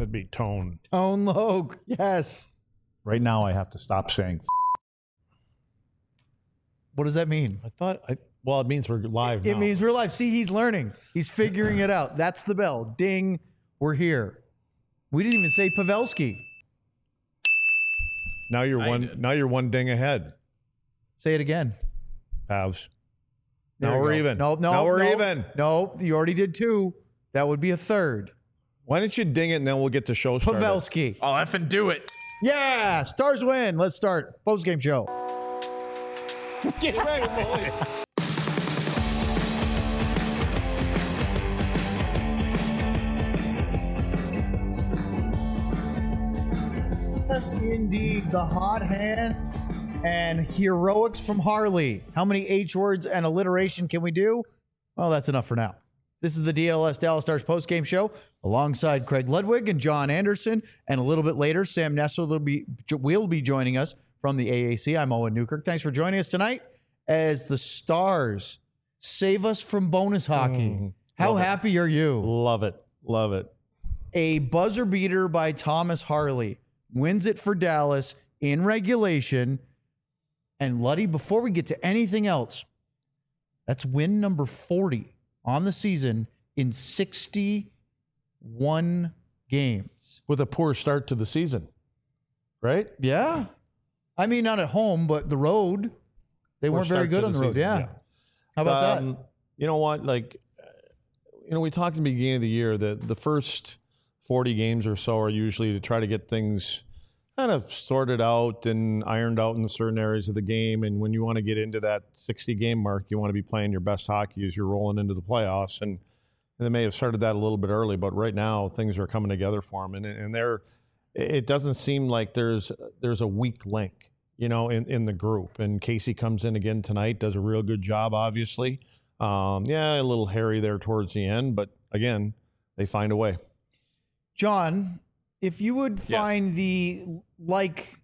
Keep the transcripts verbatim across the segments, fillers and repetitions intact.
That'd be Tone. Tone Loc. Yes. Right now, I have to stop saying. F- What does that mean? I thought. I well, it means we're live. It now. means we're live. See, he's learning. He's figuring it out. That's the bell. Ding. We're here. We didn't even say Pavelski. Now you're I one. did. Now you're one ding ahead. Say it again. Pavs. There Now you we're go. even. No, no, Now we're no, even. No, you already did two. That would be a third. Why don't you ding it and then we'll get the show started? Pavelski. I'll effing do it. Yeah, Stars win. Let's start post-game show. Get ready, boys. Yes, indeed. The hot hands and heroics from Harley. How many H words and alliteration can we do? Well, that's enough for now. This is the D L S Dallas Stars postgame show alongside Craig Ludwig and John Anderson. And a little bit later, Sam Nessel will be, will be joining us from the A A C. I'm Owen Newkirk. Thanks for joining us tonight as the Stars save us from bonus hockey. Mm, How love it. happy are you? Love it. Love it. A buzzer beater by Thomas Harley wins it for Dallas in regulation. And Luddy, before we get to anything else, that's win number forty on the season in sixty-one games. With a poor start to the season, right? Yeah. I mean, not at home, but the road. They Poor weren't very start good to on the the road. season, Yeah. yeah. How about Um, that? You know what? Like, uh, you know, we talked in the beginning of the year that the first forty games or so are usually to try to get things kind of sorted out and ironed out in certain areas of the game. And when you want to get into that sixty game mark, you want to be playing your best hockey as you're rolling into the playoffs. And, and they may have started that a little bit early, but right now things are coming together for them. And, and they're, it doesn't seem like there's, there's a weak link, you know, in, in the group. And Casey comes in again tonight, does a real good job, obviously. Um, yeah, a little hairy there towards the end, but again, they find a way. John, if you would Yes. find the like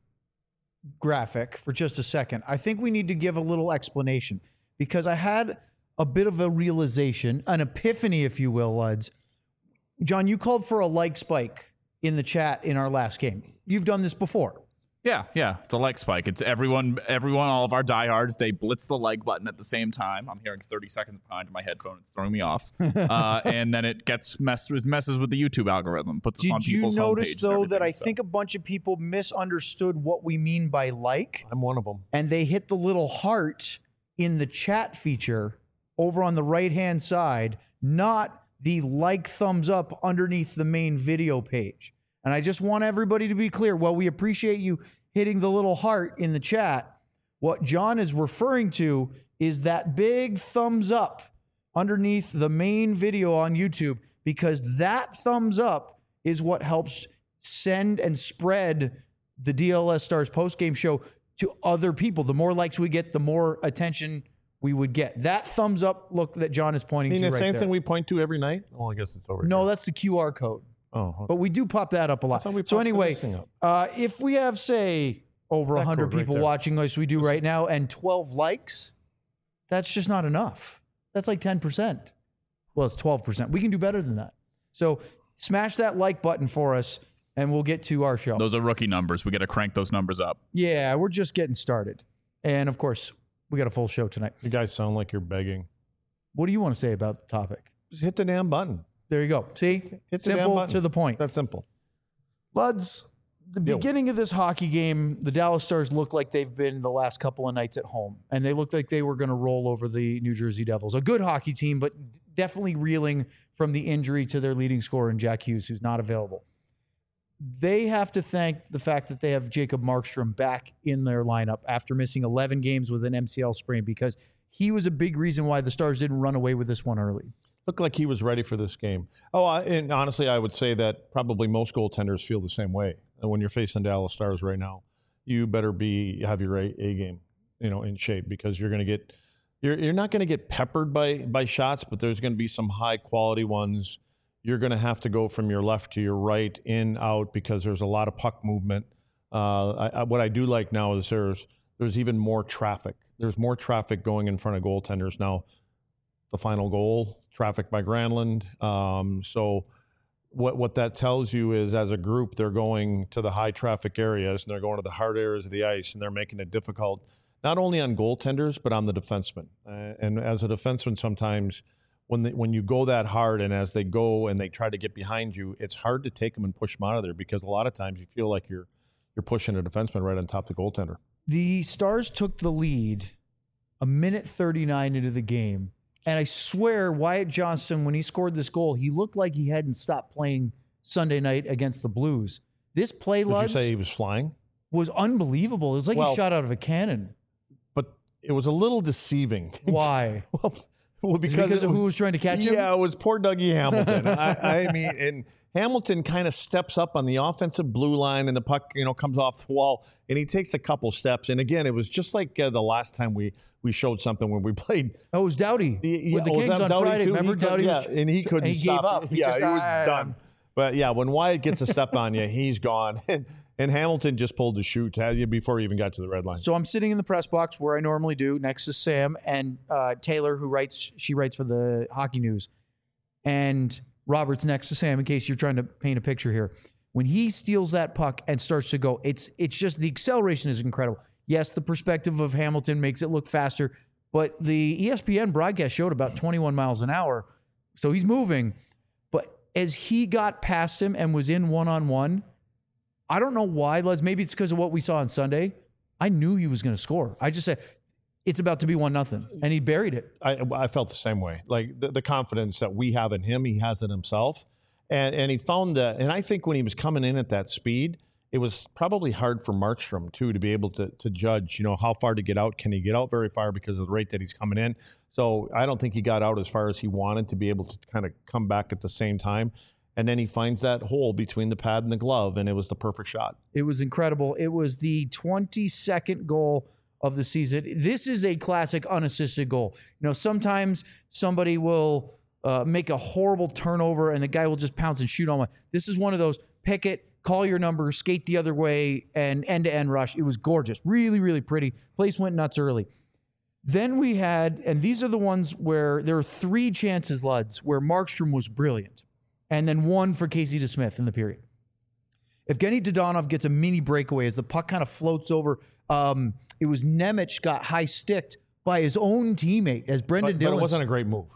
graphic for just a second, I think we need to give a little explanation because I had a bit of a realization, an epiphany, if you will, Luds. John, you called for a like spike in the chat in our last game. You've done this before. Yeah, yeah. The like spike. It's everyone, everyone, all of our diehards. They blitz the like button at the same time. I'm hearing thirty seconds behind in my headphone. It's throwing me off. uh, and then it gets messed with, messes with the YouTube algorithm. Puts us on Did you people's notice, homepages and though, that I everything, so. think a bunch of people misunderstood what we mean by like? I'm one of them. And they hit the little heart in the chat feature over on the right-hand side, not the like thumbs up underneath the main video page. And I just want everybody to be clear. While we appreciate you hitting the little heart in the chat, what John is referring to is that big thumbs up underneath the main video on YouTube, because that thumbs up is what helps send and spread the D L S Stars postgame show to other people. The more likes we get, the more attention we would get. That thumbs up look that John is I pointing mean, to the right same there. thing we point to every night. Well, I guess it's over. No, here. that's the Q R code. Oh, okay. But we do pop that up a lot. thought we So popped anyway, this thing up. uh, if we have, say, over That one hundred code right people there. watching as we do right now and twelve likes, that's just not enough. That's like ten percent. Well, it's twelve percent. We can do better than that. So smash that like button for us, and we'll get to our show. Those are rookie numbers. We got to crank those numbers up. Yeah, we're just getting started. And, of course, we got a full show tonight. You guys sound like you're begging. What do you want to say about the topic? Just hit the damn button. There you go. See? Hit the damn Simple button. to the point. That's simple. Luds, the Yo. beginning of this hockey game, the Dallas Stars look like they've been the last couple of nights at home, and they looked like they were going to roll over the New Jersey Devils. A good hockey team, but definitely reeling from the injury to their leading scorer in Jack Hughes, who's not available. They have to thank the fact that they have Jacob Markstrom back in their lineup after missing eleven games with an M C L sprain, because he was a big reason why the Stars didn't run away with this one early. Looked like he was ready for this game. Oh, I, and honestly, I would say that probably most goaltenders feel the same way. And when you're facing Dallas Stars right now, you better be have your A, A game, you know, in shape, because you're going to get you're you're not going to get peppered by by shots, but there's going to be some high quality ones. You're going to have to go from your left to your right, in, out, because there's a lot of puck movement. Uh, I, I, what I do like now is there's there's even more traffic. There's more traffic going in front of goaltenders now. The final goal, traffic by Granlund. Um, so what what that tells you is, as a group, they're going to the high traffic areas and they're going to the hard areas of the ice, and they're making it difficult not only on goaltenders but on the defensemen. Uh, and as a defenseman, sometimes when they, when you go that hard, and as they go and they try to get behind you, it's hard to take them and push them out of there, because a lot of times you feel like you're you're pushing a defenseman right on top of the goaltender. The Stars took the lead a minute thirty-nine into the game. And I swear, Wyatt Johnston, when he scored this goal, he looked like he hadn't stopped playing Sunday night against the Blues. This play, Did Luds, you say he was flying? was unbelievable. It was like Well- he shot out of a cannon. But it was a little deceiving. Why? well, well, Is because, it because it of was, who was trying to catch him? Yeah, it was poor Dougie Hamilton. I, I mean, and Hamilton kind of steps up on the offensive blue line, and the puck, you know, comes off the wall, and he takes a couple steps. And again, it was just like uh, the last time we we showed something when we played. Oh, it was Doughty Yeah, with the oh, was Kings that on Doughty Friday. too? Remember, He could- Doughty yeah, was, and he couldn't and he stop. gave up. He yeah, just, he was "Ah." done. But yeah, when Wyatt gets a step on you, he's gone. And, and Hamilton just pulled the chute before he even got to the red line. So I'm sitting in the press box where I normally do, next to Sam and uh, Taylor, who writes. She writes for the Hockey News, and Robert's next to Sam. In case you're trying to paint a picture here, when he steals that puck and starts to go, it's it's just the acceleration is incredible. Yes, the perspective of Hamilton makes it look faster, but the E S P N broadcast showed about twenty-one miles an hour, so he's moving. But as he got past him and was in one-on-one, I don't know why, Les. Maybe it's because of what we saw on Sunday. I knew he was going to score. I just said, it's about to be one nothing, and he buried it. I, I felt the same way. Like the, the confidence that we have in him, he has it himself. And and he found that, and I think when he was coming in at that speed, it was probably hard for Markstrom too to be able to to judge, you know, how far to get out. Can he get out very far because of the rate that he's coming in? So I don't think he got out as far as he wanted to be able to kind of come back at the same time. And then he finds that hole between the pad and the glove, and it was the perfect shot. It was incredible. It was the twenty-second goal of the season. This is a classic unassisted goal. You know, sometimes somebody will uh, make a horrible turnover and the guy will just pounce and shoot on one. This is one of those, pick it, call your number, skate the other way, and end-to-end rush. It was gorgeous. Really, really pretty. Place went nuts early. Then we had, and these are the ones where there are three chances, Luds, where Markstrom was brilliant. And then one for Casey DeSmith in the period. Evgeny Dodonov gets a mini breakaway as the puck kind of floats over. Um, it was Nemec got high sticked by his own teammate as Brendan But, but Dillon. it wasn't a great move.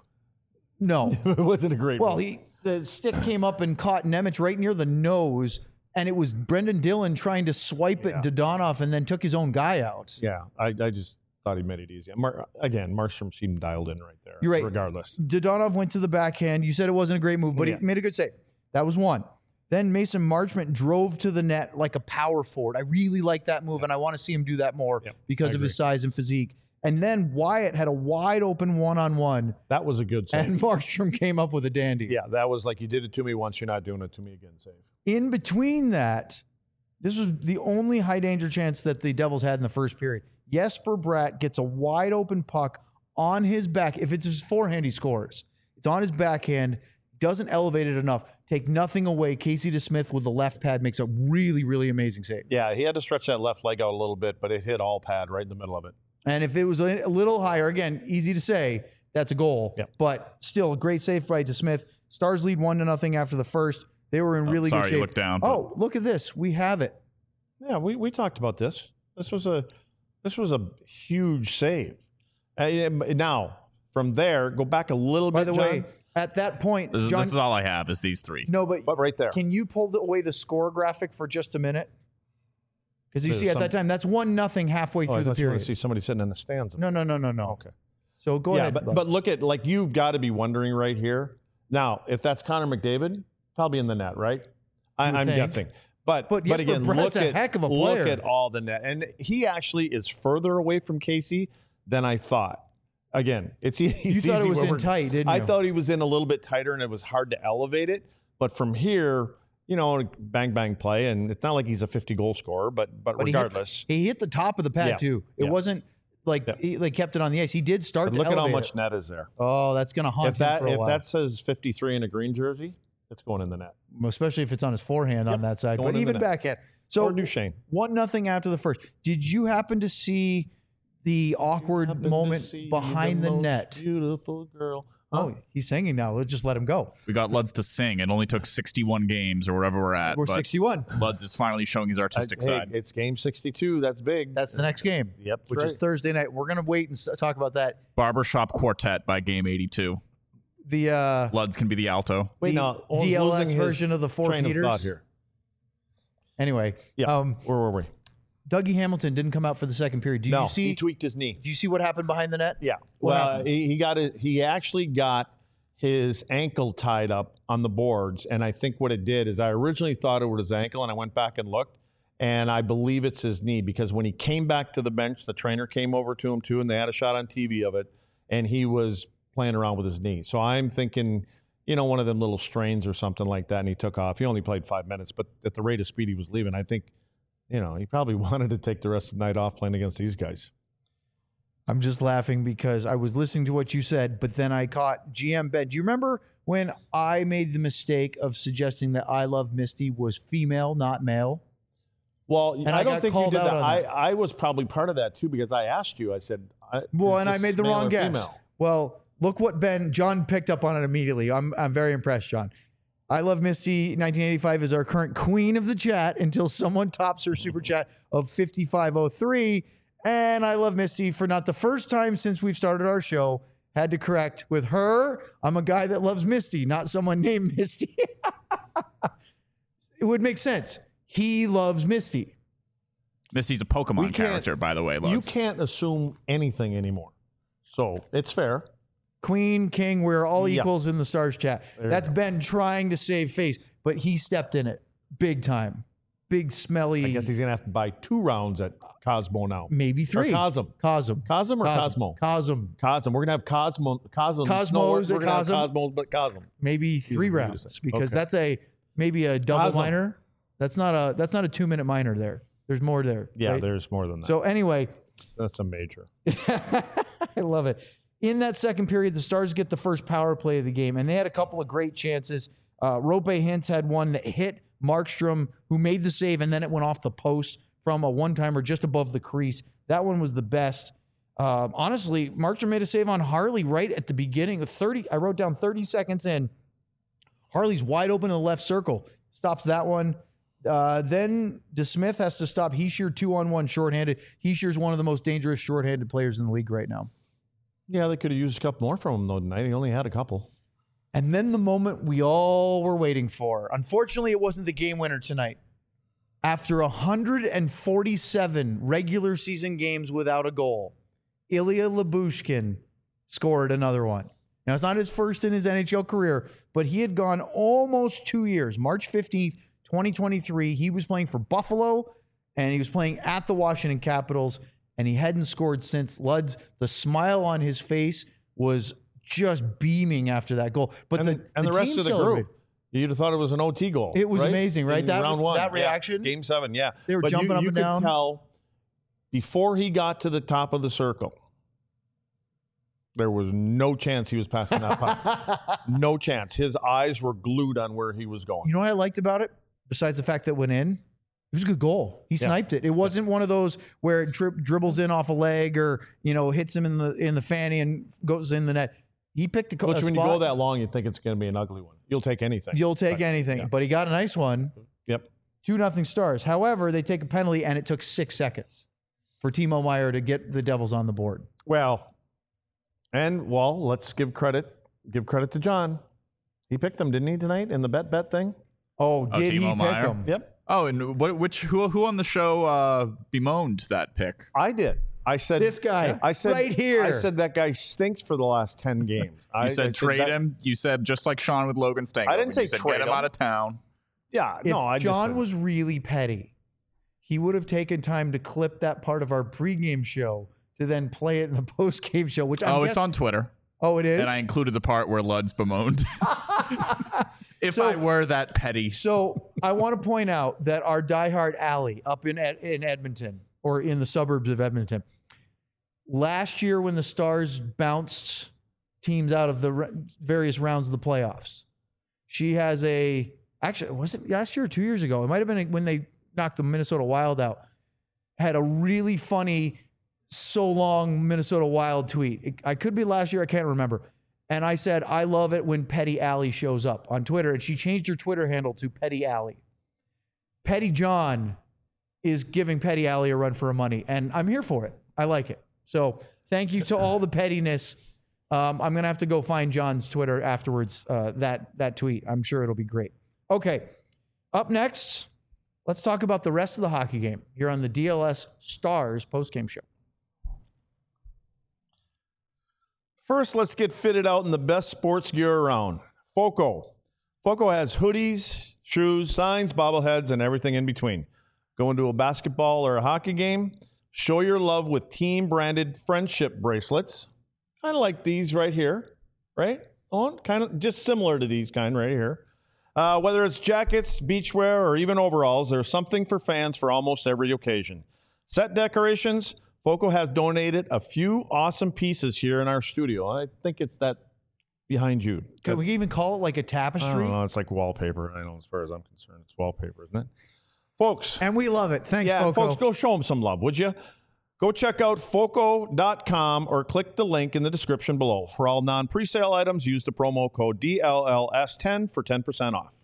No. It wasn't a great Well, move. he the stick came up and caught Nemec right near the nose, and it was Brendan Dillon trying to swipe Yeah. at Dodonov and then took his own guy out. Yeah, I, I just thought he made it easy. Mar- again, Markstrom seemed dialed in right there. You're right. Regardless. Dodonov went to the backhand. You said it wasn't a great move, but Yeah. he made a good save. That was one. Then Mason Marchment drove to the net like a power forward. I really like that move, and I want to see him do that more Yep, because I of his agree. size and physique. And then Wyatt had a wide open one-on-one, That was a good save. and Markstrom came up with a dandy. Yeah, that was like, you did it to me once, you're not doing it to me again, save. In between that, this was the only high danger chance that the Devils had in the first period. Jesper Bratt gets a wide open puck on his back. If it's his forehand, he scores. It's on his backhand, doesn't elevate it enough. Take nothing away. Casey DeSmith with the left pad makes a really, really amazing save. Yeah, he had to stretch that left leg out a little bit, but it hit all pad right in the middle of it. And if it was a a little higher, again, easy to say, that's a goal. Yep. But still, a great save by DeSmith. Stars lead one to nothing after the first. They were in Oh, really sorry, good you shape. looked down, but- Oh, look at this. We have it. Yeah, we, we talked about this. This was a this was a huge save. Uh, now, from there, go back a little By bit, the way, John, at that point, This, is- John, this is all I have is these three. no, but but right there. can you pull the- away the score graphic for just a minute? Because you There's see, at some- that time, that's one nothing halfway Oh, I through the thought you want period. to see somebody sitting in the stands. No, no, no, no, no. Okay. So go yeah, ahead. but, Lex. but look at, like, you've got to be wondering right here. Now, if that's Connor McDavid, probably in the net, right? I, would I'm think. guessing. But But but, Jesper again, Bratt's look a at heck of a look player. at all the net, and he actually is further away from Casey than I thought. Again, it's e- you it's thought easy it was when in we're- tight, didn't I you? thought he was in a little bit tighter, and it was hard to elevate it. But from here, you know, bang bang play, and it's not like he's a fifty goal scorer, but but, But he hit- regardless, he hit the top of the pad Yeah. too. It Yeah. wasn't like Yeah. he like kept it on the ice. He did start but to look at how elevate much it. net is there. Oh, that's gonna haunt If him that for a if while. that says fifty-three in a green jersey, it's going in the net. Especially if it's on his forehand on Yep. that side. Going But in the even net. backhand. So Or Duchesne. one nothing after the first. Did you happen to see the awkward Happened to moment see behind the, most net? Beautiful girl Oh, he's singing now. Let's just let him go. We got Luds to sing. It only took sixty-one games or wherever we're at. We're but sixty-one. Luds is finally showing his artistic Hey, side. it's game sixty-two. That's big. That's the next game. Yep, Which right. is Thursday night. We're going to wait and s- talk about that. Barbershop Quartet by game eighty-two. The uh, Luds can be the alto. Wait, the now Owen's V L S losing his version of the Four train Peters. of thought here. Anyway, Yeah. um, Where were we? Dougie Hamilton didn't come out for the second period. Did no, you see? he tweaked his knee. Did you see what happened behind the net? Yeah. What well, happened? he, he got it. He actually got his ankle tied up on the boards, and I think what it did is I originally thought it was his ankle, and I went back and looked, and I believe it's his knee because when he came back to the bench, the trainer came over to him too, and they had a shot on T V of it, and he was playing around with his knee. So I'm thinking, you know, one of them little strains or something like that, and he took off. He only played five minutes, but at the rate of speed he was leaving, I think, you know, he probably wanted to take the rest of the night off playing against these guys. I'm just laughing because I was listening to what you said, but then I caught G M Ben. Do you remember when I made the mistake of suggesting that I Love Misty was female, not male? Well, And I, I don't got think you called did out that. on I, that. I was probably part of that too because I asked you. I said, I, Well, is and I this made the male wrong or guess. female? Well, look what Ben, John picked up on it immediately. I'm, I'm very impressed, John. I Love Misty nineteen eighty-five is our current queen of the chat until someone tops her super chat of fifty-five oh three. And I Love Misty for not the first time since we've started our show had to correct with her. I'm a guy that loves Misty, not someone named Misty. It would make sense. He loves Misty. Misty's a We Pokemon can't- character, by the way, You Luds. can't assume anything anymore. So it's fair. Queen, king, we're all Yeah. equals in the stars chat. There you That's go. Ben trying to save face, but he stepped in it big time. Big smelly. I guess he's going to have to buy two rounds at Cosmo now. maybe three. Or Cosm. Cosm. Cosm or Cosmo? Cosm. Cosm. We're going to have Cosmo. Cosmos. Cosmos no, we're, or we're going to have Cosm? Cosmos, but Cosm. Maybe three what you rounds said. because Okay. that's a maybe a double Cosm. minor. That's not a that's not a two minute minor there. There's more there. Yeah, right? there's more than that. So anyway, That's a major. I love it. In that second period, the Stars get the first power play of the game, and they had a couple of great chances. Uh, Rope Hintz had one that hit Markstrom, who made the save, and then it went off the post from a one-timer just above the crease. That one was the best. Um, honestly, Markstrom made a save on Harley right at the beginning. thirty, I wrote down thirty seconds in. Harley's wide open in the left circle. Stops that one. Uh, then DeSmith has to stop Heischer two-on-one shorthanded. Heischer's one of the most dangerous shorthanded players in the league right now. Yeah, they could have used a couple more from him though tonight. He only had a couple. And then the moment we all were waiting for. Unfortunately, it wasn't the game winner tonight. After one hundred forty-seven regular season games without a goal, Ilya Lyubushkin scored another one. Now, it's not his first in his N H L career, but he had gone almost two years. March fifteenth, twenty twenty-three, he was playing for Buffalo, and he was playing at the Washington Capitals, and he hadn't scored since. Luds, the smile on his face was just beaming after that goal. But and the, the, and the, rest team of the celebrated. group, you'd have thought it was an O T goal. It was right? amazing, right? In That- round one, that Yeah. reaction? Game seven, yeah. They were But jumping you, up you and could down. Tell before he got to the top of the circle, there was no chance he was passing that puck. No chance. His eyes were glued on where he was going. You know what I liked about it? Besides the fact that it went in, it was a good goal. He Yeah. sniped it. It wasn't one of those where it dri- dribbles in off a leg or, you know, hits him in the in the fanny and goes in the net. He picked a, co- Which a when you spot. go that long, you think it's going to be an ugly one. You'll take anything. You'll take But, anything. yeah. But he got a nice one. Yep. Two nothing Stars. However, they take a penalty and it took six seconds for Timo Meier to get the Devils on the board. Well, and well, let's give credit. Give credit to John. He picked them, didn't he, tonight in the bet bet thing? Oh, did he Timo pick Meier? him? Yep. Oh, and what? Which who? Who on the show uh, bemoaned that pick? I did. I said This guy, I said right here. I said that guy stinks for the last ten games. You I said I trade that- him. You said just like Sean with Logan Stankoven. I didn't say you said trade get him him. out of town. Yeah, If no. I just John said- was really petty, he would have taken time to clip that part of our pregame show to then play it in the postgame show. Which I'm Oh, it's guess- on Twitter, Oh, it is. and I included the part where Luds bemoaned. If So- I were that petty, So I want to point out that our diehard alley up in Ed- in Edmonton or in the suburbs of Edmonton, last year when the Stars bounced teams out of the re- various rounds of the playoffs, she has a actually was it last year or two years ago? It might have been when they knocked the Minnesota Wild out. Had a really funny, so long Minnesota Wild tweet. It- I could be last year. I can't remember. And I said, I love it when Petty Alley shows up on Twitter. And she changed her Twitter handle to Petty Alley. Petty John is giving Petty Alley a run for her money. And I'm here for it. I like it. So thank you to all the pettiness. Um, I'm going to have to go find John's Twitter afterwards, uh, that, that tweet. I'm sure it'll be great. Okay. Up next, let's talk about the rest of the hockey game here on the D L S Stars postgame show. First, let's get fitted out in the best sports gear around. Foco. Foco has hoodies, shoes, signs, bobbleheads, and everything in between. Going to a basketball or a hockey game? Show your love with team-branded friendship bracelets. Kind of like these right here, right? On kind of just similar to these kind right here. Uh, whether it's jackets, beachwear, or even overalls, there's something for fans for almost every occasion. Set decorations, Foco has donated a few awesome pieces here in our studio. I think it's that behind you. Can we even call it like a I tapestry? don't know, it's like wallpaper. I know as far as I'm concerned, it's wallpaper, isn't it? Folks. And we love it. Thanks, yeah, Foco. folks, go show them some love, would you? Go check out foco dot com or click the link in the description below. For all non-presale items, use the promo code D L L S ten for ten percent off.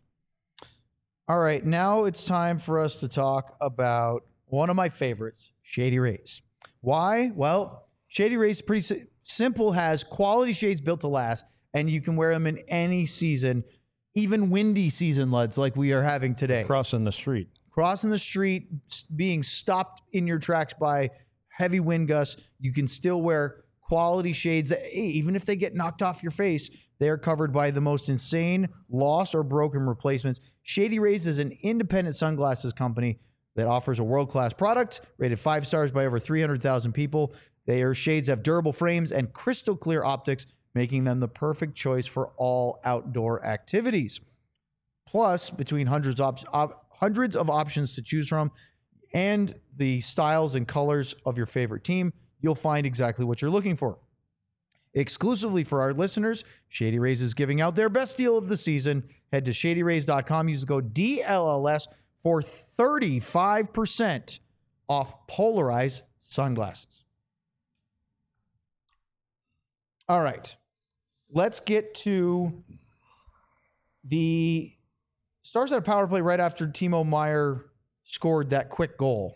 All right, now it's time for us to talk about one of my favorites, Shady Rays. Why? Well, Shady Rays is pretty si- simple, has quality shades built to last, and you can wear them in any season, even windy season, Luds, like we are having today. Crossing the street. Crossing the street, s- being stopped in your tracks by heavy wind gusts, you can still wear quality shades that, hey, even if they get knocked off your face, they are covered by the most insane lost or broken replacements. Shady Rays is an independent sunglasses company that offers a world-class product rated five stars by over three hundred thousand people. Their shades have durable frames and crystal clear optics, making them the perfect choice for all outdoor activities. Plus, between hundreds of, op- hundreds of options to choose from and the styles and colors of your favorite team, you'll find exactly what you're looking for. Exclusively for our listeners, Shady Rays is giving out their best deal of the season. Head to shady rays dot com. Use the code D L L S for thirty-five percent off polarized sunglasses. All right. Let's get to the Stars had a power play right after Timo Meier scored that quick goal.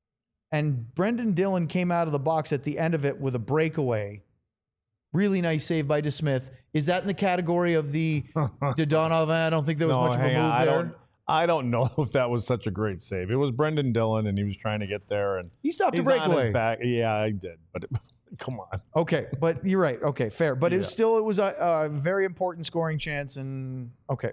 And Brendan Dillon came out of the box at the end of it with a breakaway. Really nice save by DeSmith. Is that in the category of the Dodonov? I don't think there was No, much of a hang move on. I there. don't, I don't know if that was such a great save. It was Brendan Dillon, and he was trying to get there. And He stopped a he's on his breakaway. back. Yeah, I did. But it, come on. Okay, but you're right. Okay, fair. But it was Yeah. still, it was a, a very important scoring chance. And okay.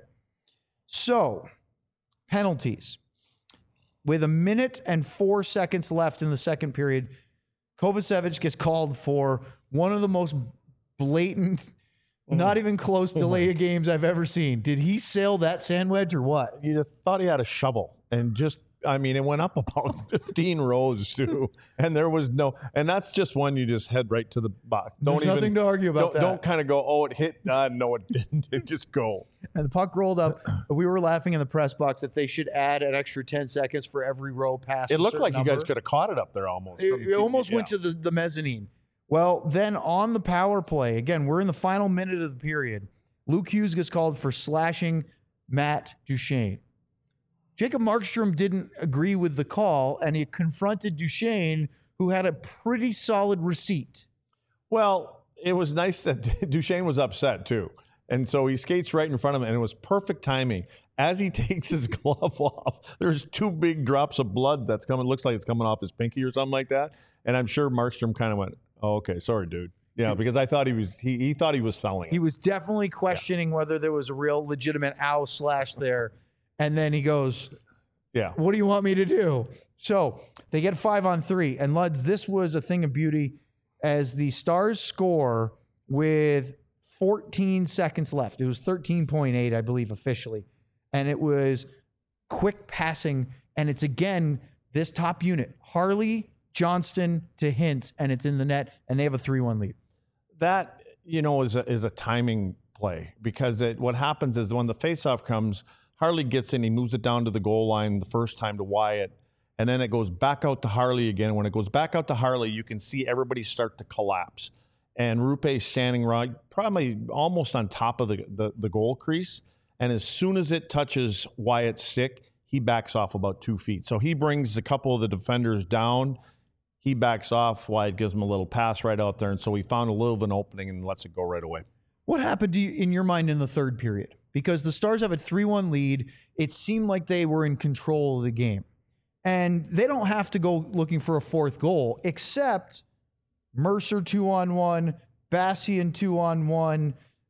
So, penalties. With a minute and four seconds left in the second period, Kovacevic gets called for one of the most blatant, not even close delay of games I've ever seen. Did he sail that sand wedge or what? You just thought he had a shovel, and just, I mean, it went up about fifteen rows too, and there was no, and that's just one you just head right to the box. Don't There's even, nothing to argue about don't, that. Don't kind of go, oh, it hit. Uh, no, it didn't. It just go. And the puck rolled up. We were laughing in the press box that they should add an extra ten seconds for every row past. It a looked certain like you guys number. could have caught it up there almost. It, from it T V, almost yeah. went to the, the mezzanine. Well, then on the power play, again, we're in the final minute of the period. Luke Hughes gets called for slashing Matt Duchene. Jacob Markstrom didn't agree with the call, and he confronted Duchene, who had a pretty solid receipt. Well, it was nice that Duchesne was upset too. And so he skates right in front of him, and it was perfect timing. As he takes his glove off, there's two big drops of blood that's coming. Looks like it's coming off his pinky or something like that. And I'm sure Markstrom kind of went, oh, okay, sorry, dude. Yeah, because I thought he was he, he thought he was selling it. He was definitely questioning yeah. whether there was a real legitimate ow slash there. And then he goes, yeah, what do you want me to do? So they get five on three. And Luds, this was a thing of beauty as the Stars score with fourteen seconds left. It was thirteen point eight, I believe, officially. And it was quick passing. And it's, again, this top unit, Harley, Johnston to Hintz, and it's in the net, and they have a three one lead. That, you know, is a, is a timing play because it, what happens is when the faceoff comes, Harley gets in, he moves it down to the goal line the first time to Wyatt, and then it goes back out to Harley again. When it goes back out to Harley, you can see everybody start to collapse. and Rupe's standing right, probably almost on top of the, the, the goal crease. And as soon as it touches Wyatt's stick, he backs off about two feet. So he brings a couple of the defenders down. He backs off. Wyatt gives him a little pass right out there. And so he found a little of an opening and lets it go right away. What happened to you in your mind in the third period? Because the Stars have a three one lead. It seemed like they were in control of the game. And they don't have to go looking for a fourth goal, except Mercer two on one, Bastian two on one.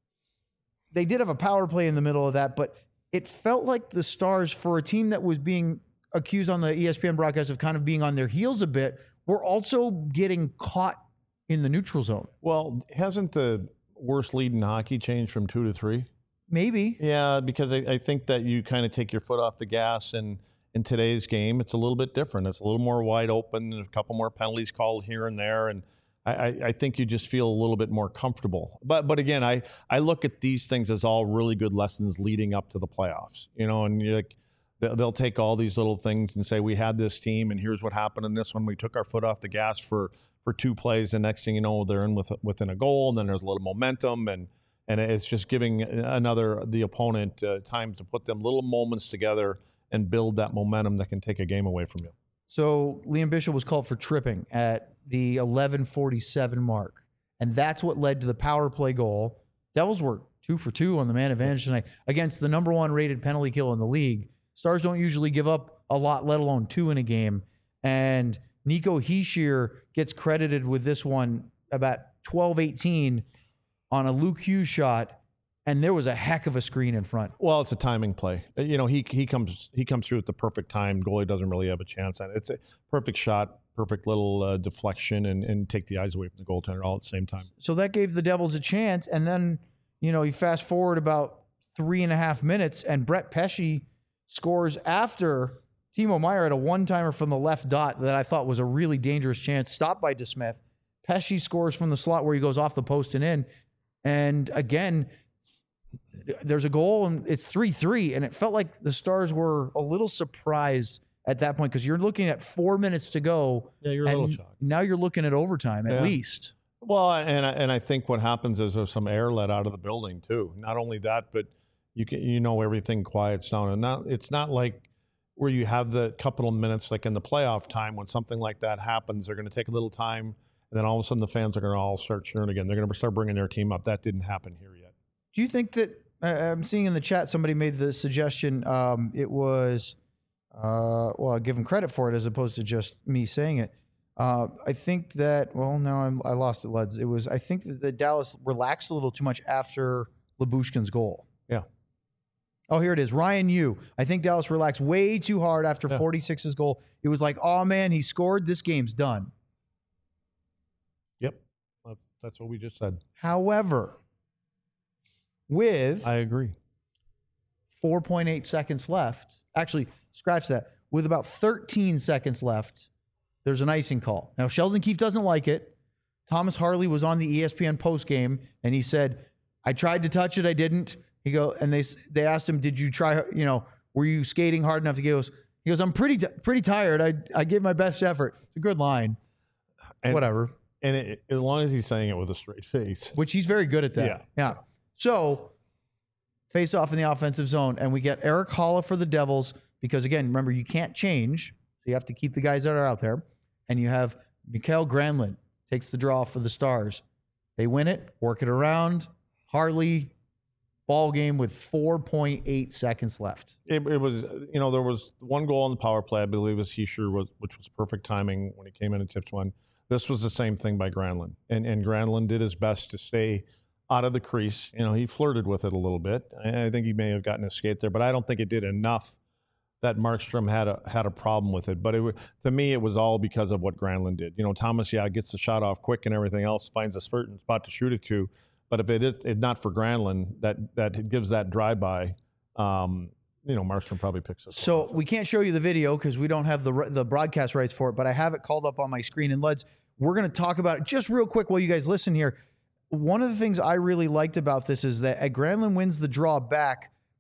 They did have a power play in the middle of that, but it felt like the Stars, for a team that was being accused on the E S P N broadcast of kind of being on their heels a bit, were also getting caught in the neutral zone. Well, hasn't the worst lead in hockey changed from two to three? Maybe. Yeah, because I, I think that you kind of take your foot off the gas, and in today's game, it's a little bit different. It's a little more wide open, and a couple more penalties called here and there, and I, I think you just feel a little bit more comfortable. But but again, I, I look at these things as all really good lessons leading up to the playoffs. You know, and you're like, they'll take all these little things and say, we had this team, and here's what happened in this one. We took our foot off the gas for for two plays, and next thing you know, they're in with within a goal, and then there's a little momentum, and and it's just giving another the opponent uh, time to put them little moments together and build that momentum that can take a game away from you. So Liam Bishop was called for tripping at the eleven forty-seven mark, and that's what led to the power play goal. Devils were two for two on the man advantage tonight against the number one rated penalty kill in the league. Stars don't usually give up a lot, let alone two in a game. And Nico Hischier gets credited with this one about twelve eighteen on a Luke Hughes shot, and there was a heck of a screen in front. Well, it's a timing play. You know, he he comes he comes through at the perfect time. Goalie doesn't really have a chance on it. It's a perfect shot, perfect little uh, deflection, and, and take the eyes away from the goaltender all at the same time. So that gave the Devils a chance, and then, you know, you fast forward about three and a half minutes, and Brett Pesce scores after Timo Meier had a one-timer from the left dot that I thought was a really dangerous chance, stopped by DeSmith. Pesce scores from the slot where he goes off the post and in. And again, there's a goal, and it's three three, and it felt like the Stars were a little surprised at that point because you're looking at four minutes to go. Yeah, you're a and little shocked. Now you're looking at overtime at Yeah. least. Well, and I, and I think what happens is there's some air let out of the building too. Not only that, but you can you know everything quiets down, and not it's not like where you have the couple of minutes like in the playoff time when something like that happens. They're going to take a little time, and then all of a sudden the fans are going to all start cheering again. They're going to start bringing their team up. That didn't happen here yet. Do you think that uh, I'm seeing in the chat somebody made the suggestion? Um, it was uh, well, I'll give them credit for it as opposed to just me saying it. Uh, I think that well, no, I'm, I lost it, Leds. It was I think that the Dallas relaxed a little too much after Lyubushkin's goal. Yeah. Oh, here it is. Ryan Yu. I think Dallas relaxed way too hard after Yeah. forty-six's goal. It was like, oh man, he scored. This game's done. Yep. That's, that's what we just said. However, with I agree. four point eight seconds left, actually, scratch that. With about thirteen seconds left, there's an icing call. Now, Sheldon Keefe doesn't like it. Thomas Harley was on the E S P N postgame, and he said, I tried to touch it. I didn't. He go, and they they asked him, did you try, you know, were you skating hard enough to get those? He goes, I'm pretty pretty tired. I I gave my best effort. It's a good line. And, Whatever. And it, as long as he's saying it with a straight face. Which he's very good at that. Yeah. Yeah. So, face off in the offensive zone, and we get Eric Holla for the Devils because, again, remember, you can't change. So you have to keep the guys that are out there. And you have Mikael Granlund takes the draw for the Stars. They win it, work it around. Harley, ball game with four point eight seconds left. It, it was, you know, there was one goal on the power play, I believe, was Hischier, was, which was perfect timing when he came in and tipped one. This was the same thing by Granlund. And, and Granlund did his best to stay out of the crease. You know, he flirted with it a little bit. I, I think he may have gotten a skate there, but I don't think it did enough that Markstrom had a had a problem with it. But it, to me, it was all because of what Granlund did. You know, Thomas, yeah, gets the shot off quick and everything else, finds a certain spot to shoot it to. But if it is it not for Granlund, that that gives that drive-by, um, you know, Markstrom probably picks us. So we can't show you the video because we don't have the the broadcast rights for it, but I have it called up on my screen. And Leds, we're going to talk about it just real quick while you guys listen here. One of the things I really liked about this is that Granlund wins the draw back,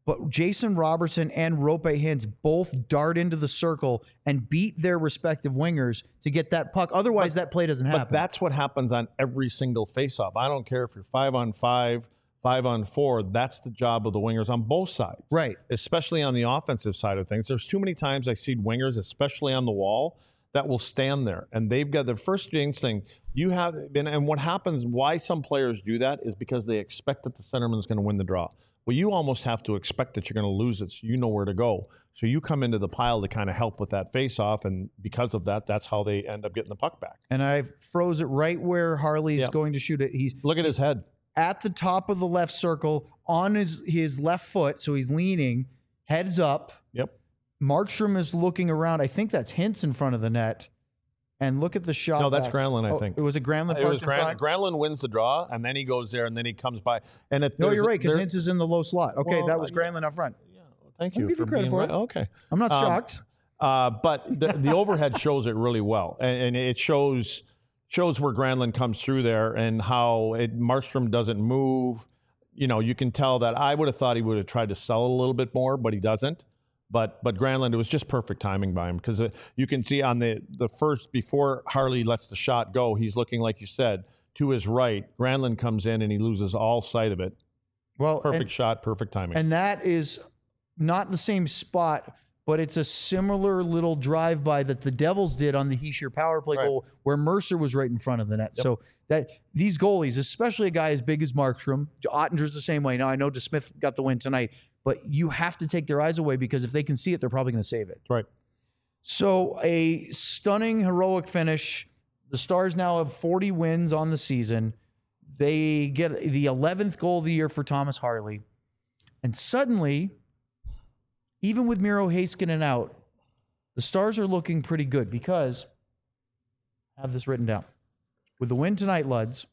but Jason Robertson and Rope Hintz both dart into the circle and beat their respective wingers to get that puck. Otherwise, but, that play doesn't happen. But that's what happens on every single faceoff. I don't care if you're five on five, five on four. That's the job of the wingers on both sides. Right. Especially on the offensive side of things. There's too many times I see wingers, especially on the wall, that will stand there. And they've got the first instinct. You have been, and what happens, why some players do that is because they expect that the centerman is going to win the draw. Well, you almost have to expect that you're going to lose it so you know where to go. So you come into the pile to kind of help with that face-off, and because of that, that's how they end up getting the puck back. And I froze it right where Harley is yep. going to shoot it. He's Look at his head. At the top of the left circle on his, his left foot, so he's leaning, heads up. Yep. Markstrom is looking around. I think that's Hintz in front of the net. And look at the shot. No, that's back. Granlund, I oh, think. It was a Granlund. It was Gran- Granlund wins the draw, and then he goes there, and then he comes by. And if no, you're right, because there, Hintz is in the low slot. Okay, well, that was uh, Granlund up front. Yeah, well, thank I'll you give for you credit being for right. it. Okay. I'm not um, shocked. Uh, but the, the overhead shows it really well, and, and it shows shows where Granlund comes through there and how it, Markstrom doesn't move. You know, you can tell that I would have thought he would have tried to sell it a little bit more, but he doesn't. But but Granlund, it was just perfect timing by him because you can see on the, the first, before Harley lets the shot go, he's looking, like you said, to his right. Granlund comes in and he loses all sight of it. Well, Perfect and, shot, perfect timing. And that is not the same spot, but it's a similar little drive-by that the Devils did on the Hischier power play Right. goal where Mercer was right in front of the net. Yep. So that these goalies, especially a guy as big as Markstrom, Ottinger's the same way. Now, I know DeSmith got the win tonight, but you have to take their eyes away because if they can see it, they're probably going to save it. Right. So a stunning, heroic finish. The Stars now have forty wins on the season. They get the eleventh goal of the year for Thomas Harley. And suddenly, even with Miro Heiskanen out, the Stars are looking pretty good because, I have this written down. With the win tonight, Luds,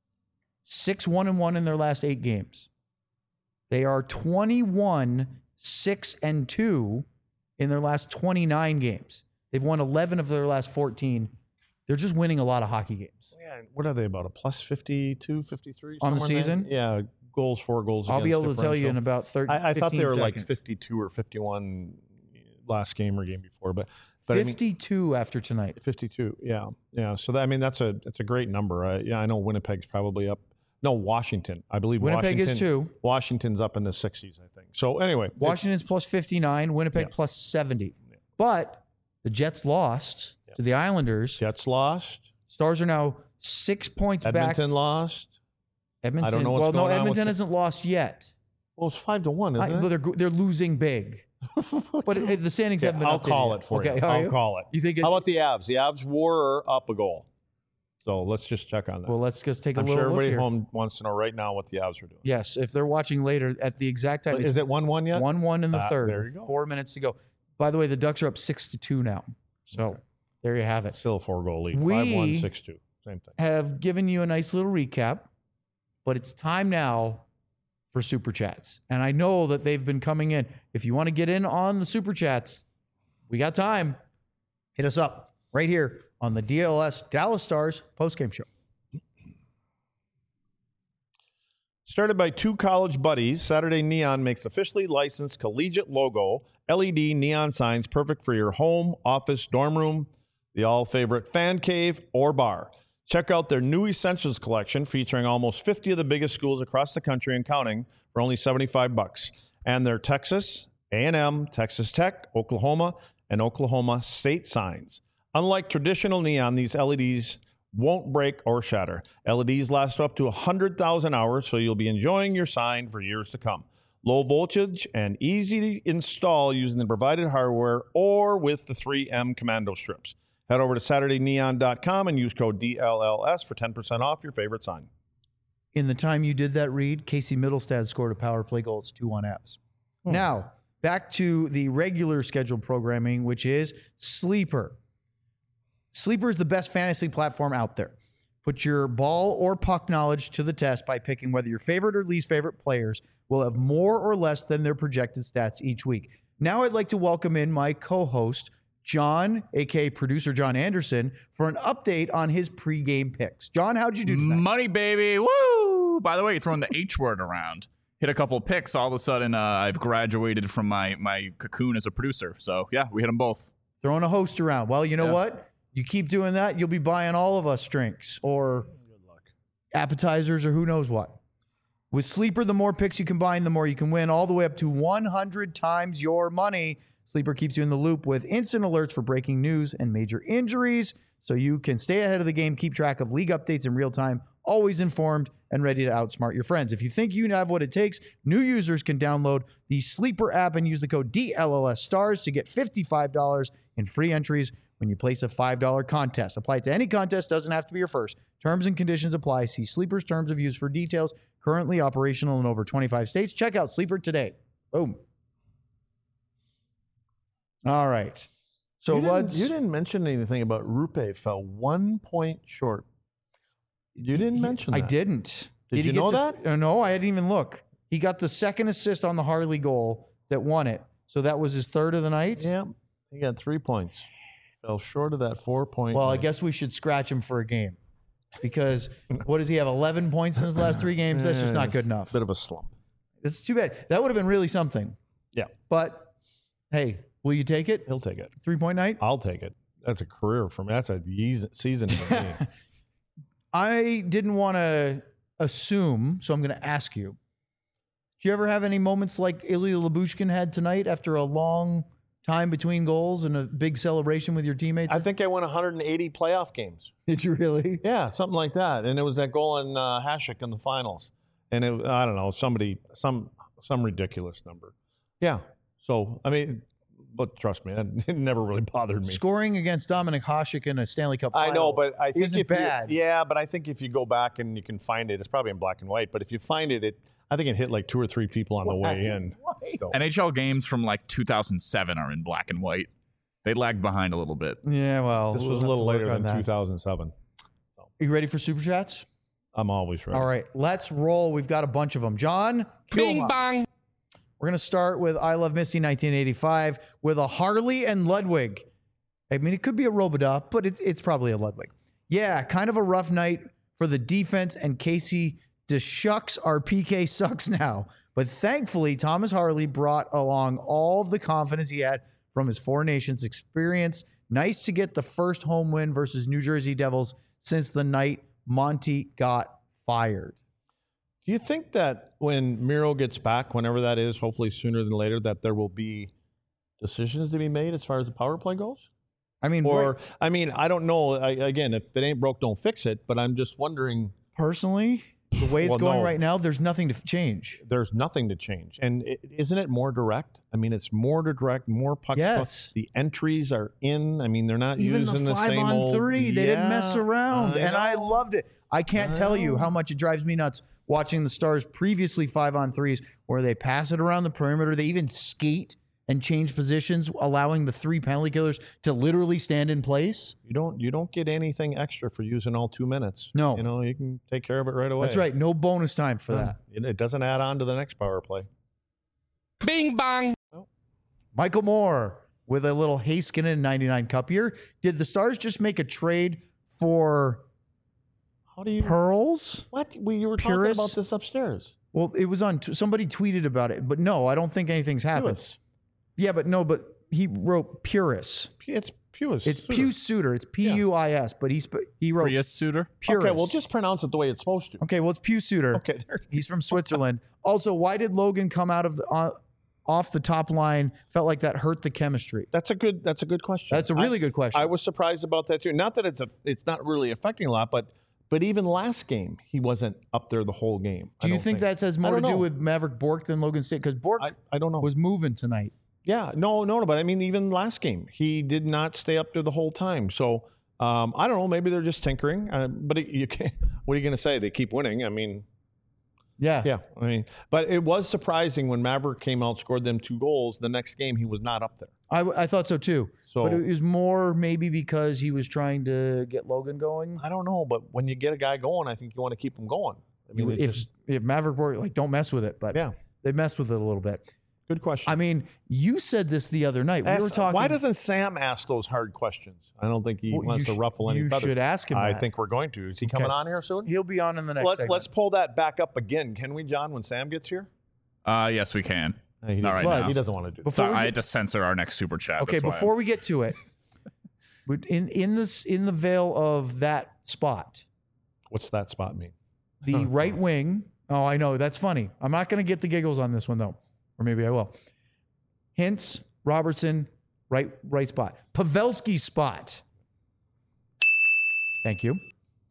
six one and one in their last eight games. They are twenty-one, six and two in their last twenty-nine games. They've won eleven of their last fourteen. They're just winning a lot of hockey games. Yeah, what are they, about a plus fifty-two, fifty-three? On the somewhere in season? there? Yeah, goals, four goals I'll be against able to tell you in differential. about thirty. I, I thought they were like seconds. fifty-two or fifty-one last game or game before, but but I mean, fifty-two after tonight. fifty-two, yeah, yeah. So that, I mean, that's a that's a great number. I, yeah, I know Winnipeg's probably up. No, Washington. I believe Winnipeg Washington, is two. Washington's up in the sixties, I think. So anyway, Washington's plus fifty-nine, Winnipeg Yeah. plus seventy. But the Jets lost Yeah. to the Islanders. Jets lost. Stars are now six points Edmonton back. lost. Edmonton. I don't know what's well, no, going on with Edmonton the- hasn't lost yet. Well, it's five to one, isn't I, it? well, they're they're losing big. But it, the standings Yeah, haven't been I'll updated call yet. it for okay, you. are I'll you? call it. You think it, How about the Avs? The Avs were up a goal. So let's just check on that. Well, let's just take a I'm little sure look everybody here. home wants to know right now what the Avs are doing. Yes, if they're watching later at the exact time. But is it one one yet? One one in the Ah, third. there you go. Four minutes to go. By the way, the Ducks are up six to two now. So Okay. there you have it. Still a four goal lead. We- Five one, six two. Same thing. Have given you a nice little recap, but it's time now for Super Chats. And I know that they've been coming in. If you want to get in on the Super Chats, we got time. Hit us up right here on the D L S Dallas Stars postgame show. Started by two college buddies, Saturday Neon makes officially licensed collegiate logo L E D neon signs perfect for your home, office, dorm room, the all-favorite fan cave, or bar. Check out their new Essentials collection featuring almost fifty of the biggest schools across the country and counting for only seventy-five bucks. And their Texas, A and M, Texas Tech, Oklahoma, and Oklahoma State signs. Unlike traditional neon, these L E Ds won't break or shatter. L E Ds last up to one hundred thousand hours, so you'll be enjoying your sign for years to come. Low voltage and easy to install using the provided hardware or with the three M commando strips. Head over to Saturday Neon dot com and use code D L L S for ten percent off your favorite sign. In the time you did that read, Casey Middlestad scored a power play goal. It's two one Avs. Hmm. Now, back to the regular scheduled programming, which is Sleeper. Sleeper is the best fantasy platform out there. Put your ball or puck knowledge to the test by picking whether your favorite or least favorite players will have more or less than their projected stats each week. Now I'd like to welcome in my co-host, John, a k a producer John Anderson, for an update on his pregame picks. John, how'd you do tonight? Money, baby. Woo! By the way, you're throwing the H word around. hit a couple picks, all of a sudden uh, I've graduated from my my cocoon as a producer. So yeah, we hit them both. Throwing a host around. Well, you know Yeah. what? You keep doing that, you'll be buying all of us drinks or appetizers or who knows what. With Sleeper, the more picks you combine, the more you can win, all the way up to one hundred times your money. Sleeper keeps you in the loop with instant alerts for breaking news and major injuries, so you can stay ahead of the game, keep track of league updates in real time, always informed and ready to outsmart your friends. If you think you have what it takes, new users can download the Sleeper app and use the code D L L S STARS to get fifty-five dollars in free entries when you place a five dollar contest. Apply it to any contest, doesn't have to be your first. Terms and conditions apply. See Sleeper's terms of use for details. Currently operational in over twenty-five states. Check out Sleeper today. Boom. All right. So you let's... Didn't, you didn't mention anything about Rupe fell one point short. You didn't He- mention I that. didn't. Did he you get know to- that? uh, no, I didn't even look. He got the second assist on the Harley goal that won it. So that was his third of the night? Yeah, he got three points. Fell short of that four point. Well, I guess we should scratch him for a game. Because what does he have? eleven points in his last three games? That's just not good enough. Bit of a slump. It's too bad. That would have been really something. Yeah, But hey, will you take it? he'll take it. Three point night? I'll take it. That's a career for me. That's a ye- season for me. I didn't want to assume, so I'm going to ask you. Do you ever have any moments like Ilya Lyubushkin had tonight after a long time between goals and a big celebration with your teammates? I think I won one hundred eighty playoff games. Did you really? Yeah, something like that. And it was that goal in uh, Hasek in the finals. And it, I don't know, somebody, some some ridiculous number. Yeah. So, I mean, but trust me, it never really bothered me. Scoring against Dominic Hasek in a Stanley Cup final I know, but I think isn't if bad. You, yeah, but I think if you go back and you can find it, it's probably in black and white. But if you find it, it I think it hit like two or three people on the way in. So, N H L games from like two thousand seven are in black and white. They lagged behind a little bit. Yeah, well, this we'll was a have little to work later on than that. two thousand seven. Are you ready for Super Chats? I'm always ready. All right, let's roll. We've got a bunch of them. John, cue 'em Bing up. bong. We're going to start with I Love Misty nineteen eighty-five with a Harley and Ludwig. I mean, it could be a Robidoux, but it, it's probably a Ludwig. Yeah, kind of a rough night for the defense, and Casey DeShucks, our P K sucks now. But thankfully, Thomas Harley brought along all of the confidence he had from his Four Nations experience. Nice to get the first home win versus New Jersey Devils since the night Monty got fired. Do you think that when Miro gets back, whenever that is, hopefully sooner than later, that there will be decisions to be made as far as the power play goes? I mean, Or, right- I mean, I don't know. I, again, if it ain't broke, don't fix it. But I'm just wondering, personally, the way it's Well, going no. right now, there's nothing to f- change. there's nothing to change. And it, isn't it more direct? I mean, it's more direct, more puck. Yes. The entries are in. I mean, they're not Even using the the, five same on old, three, they didn't mess Yeah, around, and I know. loved it. I can't I tell you know. how much it drives me nuts watching the Stars previously five on threes, where they pass it around the perimeter. They even skate and change positions, allowing the three penalty killers to literally stand in place. You don't. You don't get anything extra for using all two minutes. No. You know, you can take care of it right away. That's right. No bonus time for that. It, it doesn't add on to the next power play. Bing bong. Michael Moore with a little Heiskanen ninety-nine cup here. Did the Stars just make a trade for How do you? pearls? What? We you were Purist? talking about this upstairs. Well, it was on. T- somebody tweeted about it, but no, I don't think anything's happened. Pewis. Yeah, but no, but he wrote Purus. P- It's Pewis. It's Suter. Pew Suter. It's P U I S, but he sp- he wrote Prius suitor. Purus. Okay, well, just pronounce it the way it's supposed to. okay. Well, it's Pew Suter. Okay, there. He's from Switzerland. Also, why did Logan come out of the uh, off the top line? Felt like that hurt the chemistry. That's a good. That's a good question. That's a really I, good question. I was surprised about that too. Not that it's a. It's not really affecting a lot, but but even last game he wasn't up there the whole game. do I you don't think, that has more I to don't do know. with Maverick Bork than Logan State? Because Bork I, I don't know. was moving tonight. Yeah, no, no, no. But I mean, even last game, he did not stay up there the whole time. So um, I don't know. Maybe they're just tinkering. Uh, but it, you can't. What are you going to say? They keep winning. I mean, Yeah. yeah. I mean, but it was surprising when Maverick came out, scored them two goals. The next game, he was not up there. I, I thought so too. So but it was more maybe because he was trying to get Logan going. I don't know. But when you get a guy going, I think you want to keep him going. I mean, it if just, if Maverick Bork, like, don't mess with it, but yeah. they messed with it a little bit. Good question. I mean, you said this the other night. We Ask- were talking. Why doesn't Sam ask those hard questions? I don't think he Well, wants you to sh- ruffle any You feathers. should ask him. I that. think we're going to. Is he Okay. coming on here soon? he'll be on in the next. let's segment. let's pull that back up again, can we, John? When Sam gets here, Uh, yes, we can. He Not right doesn't- now. He doesn't want to do. Before Sorry, we I get- had to censor our next super chat. Okay, That's why before I'm- we get to it, in in this in the veil of that spot, What's that spot mean? the right wing. Oh, I know that's funny. I'm not going to get the giggles on this one though, or maybe I will. Hintz, Robertson, right right spot. Pavelski spot. Thank you.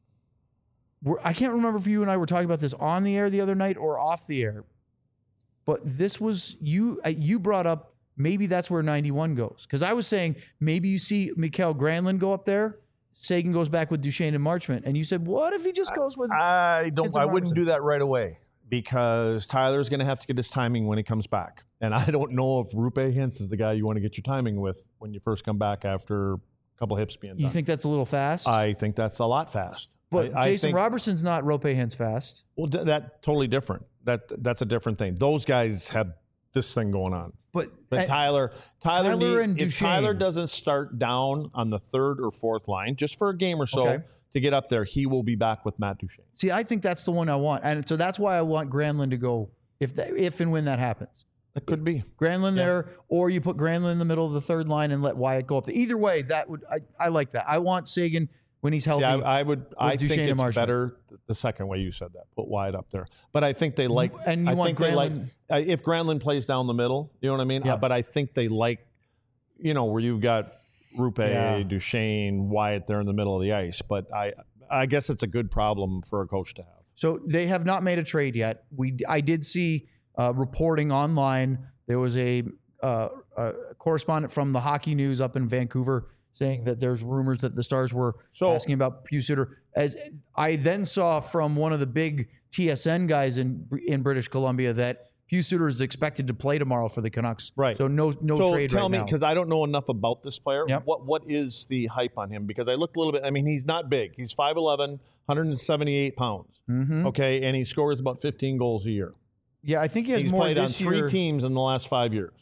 We're, I can't remember if you and I were talking about this on the air the other night or off the air, but this was you. uh, You brought up maybe that's where ninety-one goes because I was saying maybe you see Mikael Granlund go up there. Sagan goes back with Duchesne and Marchment, and you said, "What if he just goes with?" I don't. Hintz and I wouldn't Robertson. do that right away because Tyler's going to have to get his timing when he comes back, and I don't know if Rupe Hintz is the guy you want to get your timing with when you first come back after a couple hips being done. You think that's a little fast? I think that's a lot fast. but I, I Jason think, Robertson's not Rope Hintz fast. Well, th- that totally different. That that's a different thing. Those guys have this thing going on. But, But uh, Tyler, Tyler, Tyler need- and if Tyler Duchesne. doesn't start down on the third or fourth line just for a game or so Okay. to get up there, he will be back with Matt Duchesne. see, I think that's the one I want, and so that's why I want Granlund to go if that, if and when that happens. That could be. Granlund there, or you put Granlund in the middle of the third line and let Wyatt go up there. Either way, that would I, I like that. I want Sagan when he's healthy. See, I, I would. I Duchesne think and it's Marchment. better th- the second way you said that. Put Wyatt up there, but I think they like. And you I want think they like Granlund- uh, if Granlund plays down the middle. You know what I mean? Yeah. Uh, but I think they like, you know, where you've got Rupe, Yeah. Duchesne, Wyatt there in the middle of the ice. But I, I guess it's a good problem for a coach to have. So they have not made a trade yet. We I did see uh, reporting online. There was a, uh, a correspondent from the Hockey News up in Vancouver saying that there's rumors that the Stars were So- asking about Pius Suter. As I then saw from one of the big T S N guys in in British Columbia that Pius Suter is expected to play tomorrow for the Canucks. Right. So no no so trade tell right me, now. because I don't know enough about this player. Yep. What what is the hype on him? Because I looked a little bit. I mean, he's not big. He's five eleven, one hundred seventy-eight pounds. Mhm. Okay, and he scores about fifteen goals a year. Yeah, I think he has He's more played on this three year. teams in the last five years.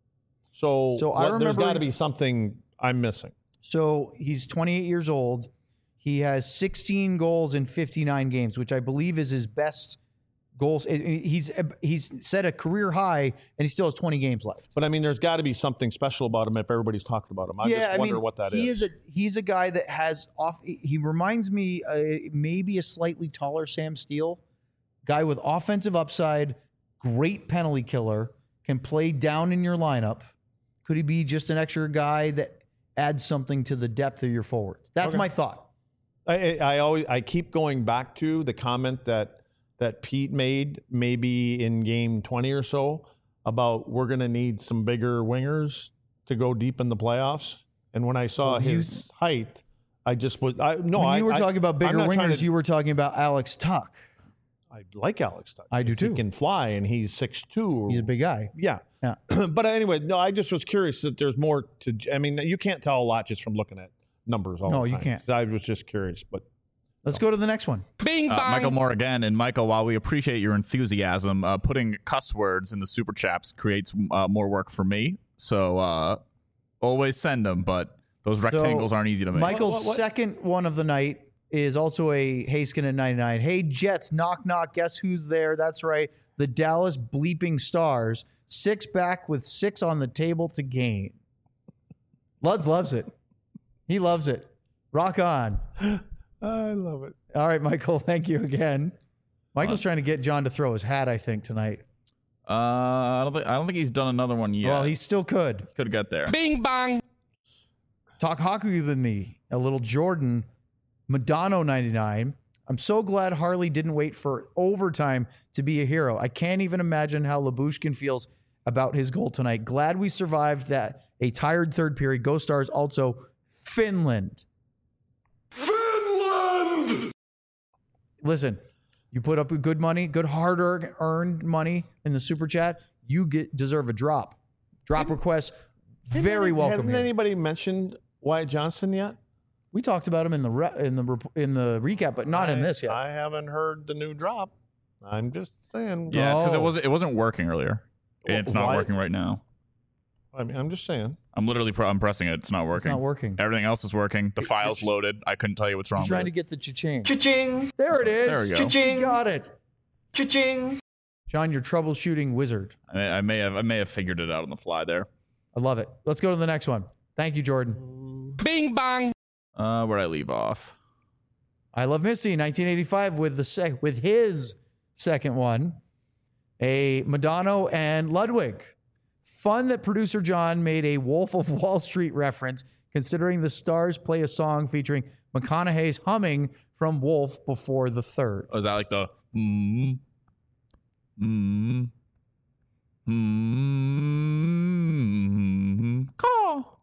So, So I what- there's remember- got to be something I'm missing. So he's twenty-eight years old. He has sixteen goals in fifty-nine games, which I believe is his best goals. I- I- He's he's set a career high, and he still has twenty games left. But I mean, there's got to be something special about him if everybody's talking about him. I yeah, just I wonder mean, what that he is. is. a he's a guy that has off. He reminds me uh, maybe a slightly taller Sam Steele, guy with offensive upside, great penalty killer, can play down in your lineup. Could he be just an extra guy that adds something to the depth of your forwards? That's Okay. my thought. I, I I always I keep going back to the comment that that Pete made maybe in game twenty or so about we're going to need some bigger wingers to go deep in the playoffs. And when I saw Well, you- his height, I just was I no when I you were I- talking about I'm bigger not trying wingers, to- you were talking about Alex Tuck. I like Alex Tuck. I do If he too. can fly and he's six two. He's a big guy. Yeah. Yeah. But anyway, no, I just was curious that there's more to. I mean, you can't tell a lot just from looking at numbers all No, the you time. can't. I was just curious, but Let's go to the next one. Bing Uh, bang. Michael Moore again, and Michael, while we appreciate your enthusiasm, uh, putting cuss words in the super chaps creates uh, more work for me. So uh, always send them, but those rectangles aren't easy to make. Michael's What- what- second one of the night is also a Haskin at ninety-nine. Hey, Jets, knock, knock. Guess who's there? That's right. The Dallas bleeping Stars. Six back with six on the table to gain. Luds loves it. He loves it. Rock on. I love it. All right, Michael. Thank you again. Michael's trying to get John to throw his hat, I think, tonight. uh, I don't think I don't think he's done another one yet. Well, he still could. could get there. Bing bang. Talk hockey with me. A little Jordan. Madonna ninety-nine. I'm so glad Harley didn't wait for overtime to be a hero. I can't even imagine how Lyubushkin feels about his goal tonight. Glad we survived that. A tired third period. Go Stars. Also, Finland. Finland. Listen, you put up good money, good hard earned money in the super chat. You get deserve a drop. Drop request. Very welcome. Hasn't here. anybody mentioned Wyatt Johnson yet? We talked about him in the re- in the rep- in the recap, but not in I- this yet. I haven't heard the new drop. I'm just saying. Yeah, because Oh. it wasn't it wasn't working earlier. Well, It's not why- working right now. I mean, I'm just saying. I'm literally pro- I'm pressing it. It's not It's working. not working. Everything else is working. The file's loaded. I couldn't tell you what's wrong. He's trying to with get the cha-ching. Cha-ching, There it is. There we go. Cha-ching. Got it. cha-ching. John, you're troubleshooting wizard. I may, I may have I may have figured it out on the fly there. I love it. Let's go to the next one. Thank you, Jordan. Bing bong. Uh, where'd I leave off? I Love Misty, nineteen eighty-five, with the sec- with his second one, a Madonna and Ludwig. Fun that producer John made a Wolf of Wall Street reference, considering the stars play a song featuring McConaughey's humming from Wolf before the third. Oh, is that like the mm, mm, mm, call?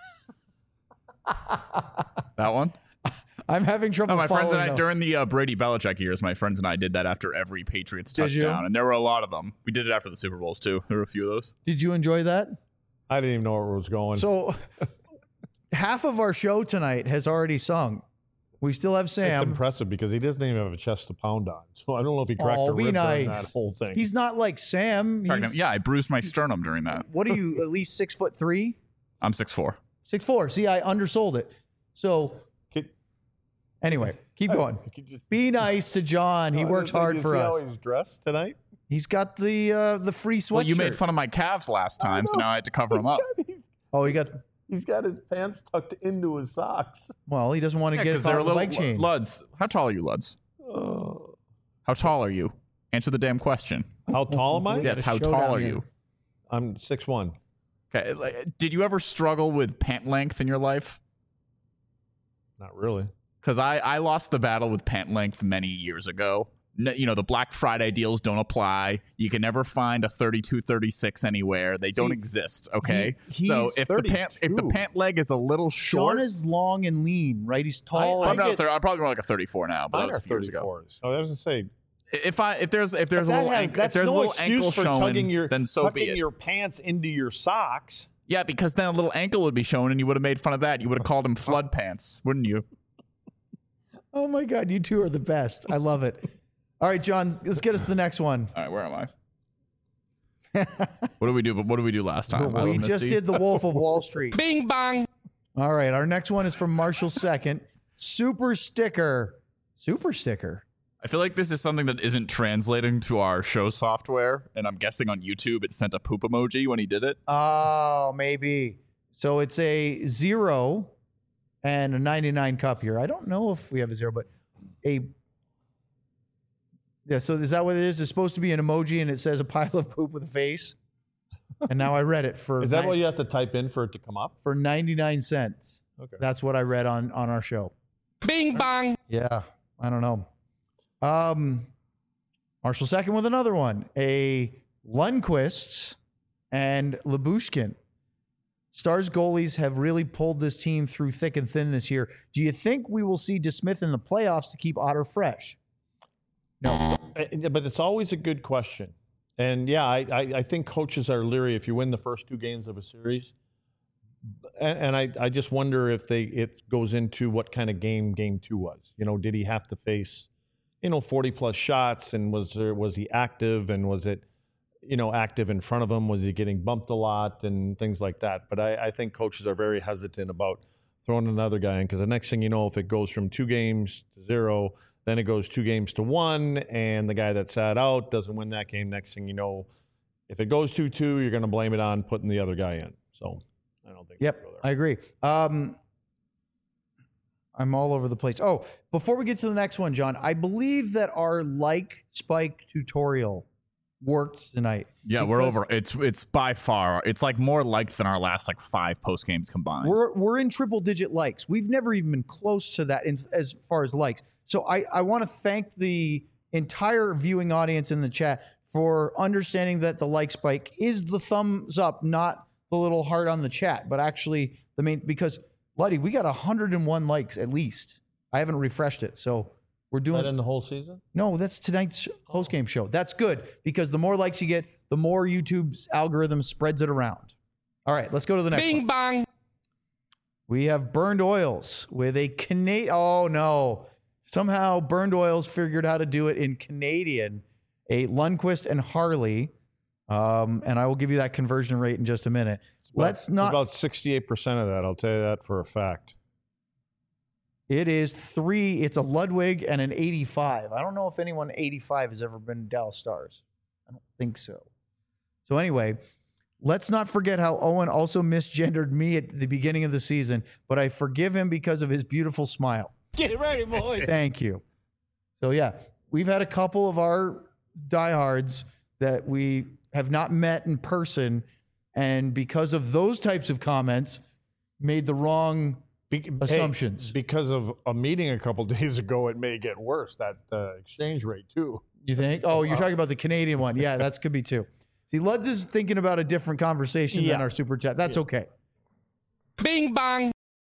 That one? I'm having trouble. No, my friends and I following up. during the uh, Brady Belichick years, my friends and I did that after every Patriots Did you? touchdown, and there were a lot of them. We did it after the Super Bowls too. There were a few of those. Did you enjoy that? I didn't even know where it was going. So, half of our show tonight has already sung. We still have it's Sam. impressive because he doesn't even have a chest to pound on. So I don't know if he cracked Oh, a be rib during nice. that whole thing. He's not like Sam. Pregnant. He's- Yeah, I bruised my sternum during that. What are you? At least six foot three, I'm six foot four. six four. See, I undersold it. So Kid- anyway, keep going. You could just- Be nice to John. He Oh, works did you hard see for how us. he's dressed tonight. He's got the uh, the free sweatshirt. Well, you made fun of my calves last time, so now I had to cover them up. Oh, he got. He's got his pants tucked into his socks. Well, he doesn't want to Yeah, get because caught they're a in the little leg chain. Luds. How tall are you, Luds? Oh. How tall are you? Answer the damn question. How tall am I? We Yes, got a how showdown tall are here. you? I'm six one. Okay. like, Did you ever struggle with pant length in your life? Not really. Because I, I lost the battle with pant length many years ago. No, you know, the Black Friday deals don't apply. You can never find a thirty-two thirty-six anywhere. They don't See, exist, okay? he- so he's if the pant if the thirty-two. pant leg is a little short, John is long and lean, right? He's tall. I I'm, not a get- thir- I'm probably more like a thirty-four now, but that Mine was are a few years ago. thirty-fours. So I was gonna say If I if there's if there's a that little has- ankle, if that's there's a no little excuse ankle for showing, tugging your then so be tucking it. your pants into your socks. Yeah, because then a little ankle would be shown, and you would have made fun of that. You would have called him flood pants, wouldn't you? Oh my God, you two are the best. I love it. All right, John, let's get us to the next one. All right, where am I? What did we do? What did we do last time? I We Love just Misty? did the Wolf of Wall Street. Bing bong. All right, our next one is from Marshall Second. Super sticker. Super sticker. I feel like this is something that isn't translating to our show software, and I'm guessing on YouTube it sent a poop emoji when he did it. Oh, maybe. So it's a zero and a ninety-nine cup here. I don't know if we have a zero, but a. Yeah, so is that what it is? It's supposed to be an emoji and it says a pile of poop with a face. And now I read it for Is that nine- what you have to type in for it to come up? for ninety-nine cents. Okay. That's what I read on on our show. Bing bong. Yeah, I don't know. Um, Marshall Second with another one. A Lundqvist and Labushkin. Stars goalies have really pulled this team through thick and thin this year. Do you think we will see DeSmith in the playoffs to keep Otter fresh? Uh, But it's always a good question. And yeah, I, I, I think coaches are leery if you win the first two games of a series. And, and I, I just wonder if they it goes into what kind of game game two was. You know, did he have to face, you know, forty plus shots, and was there was he active, and was it, you know, active in front of him? Was he getting bumped a lot and things like that? But I, I think coaches are very hesitant about throwing another guy in, because the next thing you know, if it goes from two games to zero, then it goes two games to one, and the guy that sat out doesn't win that game. Next thing you know, if it goes two two, you're going to blame it on putting the other guy in. So I don't think Yep, we'll go I there. agree. Um, I'm all over the place. Oh, before we get to the next one, John, I believe that our like spike tutorial worked tonight. Yeah, we're Because over. It's it's by far. It's like more liked than our last like five post games combined. We're we're in triple digit likes. We've never even been close to that in, as far as likes. So I, I want to thank the entire viewing audience in the chat for understanding that the like spike is the thumbs up, not the little heart on the chat, but actually the main, because Luddy, we got one hundred one likes at least. I haven't refreshed it. So we're Is doing that in the whole season? no, that's tonight's post game show. That's good because the more likes you get, the more YouTube's algorithm spreads it around. All right, let's go to the next one. Bing bong. We have Burned Oils with a Canadian. Oh, no. Somehow Burned Oils figured how to do it in Canadian. A Lundqvist and Harley. Um, and I will give you that conversion rate in just a minute. About- Let's it's not. about sixty-eight percent of that. I'll tell you that for a fact. It is three. It's a Ludwig and an eighty-five. I don't know if anyone eighty-five has ever been Dallas Stars. I don't think so. So anyway, let's not forget how Owen also misgendered me at the beginning of the season, but I forgive him because of his beautiful smile. Get ready, boys. Thank you. So yeah, we've had a couple of our diehards that we have not met in person, and because of those types of comments, made the wrong Be- assumptions. Hey, because of a meeting a couple days ago, it may get worse, that uh, exchange rate too. You think? Oh, you're talking about the Canadian one. Yeah, that could be too. See, Luds is thinking about a different conversation Yeah. than our super chat. That's Yeah. okay. Bing bang.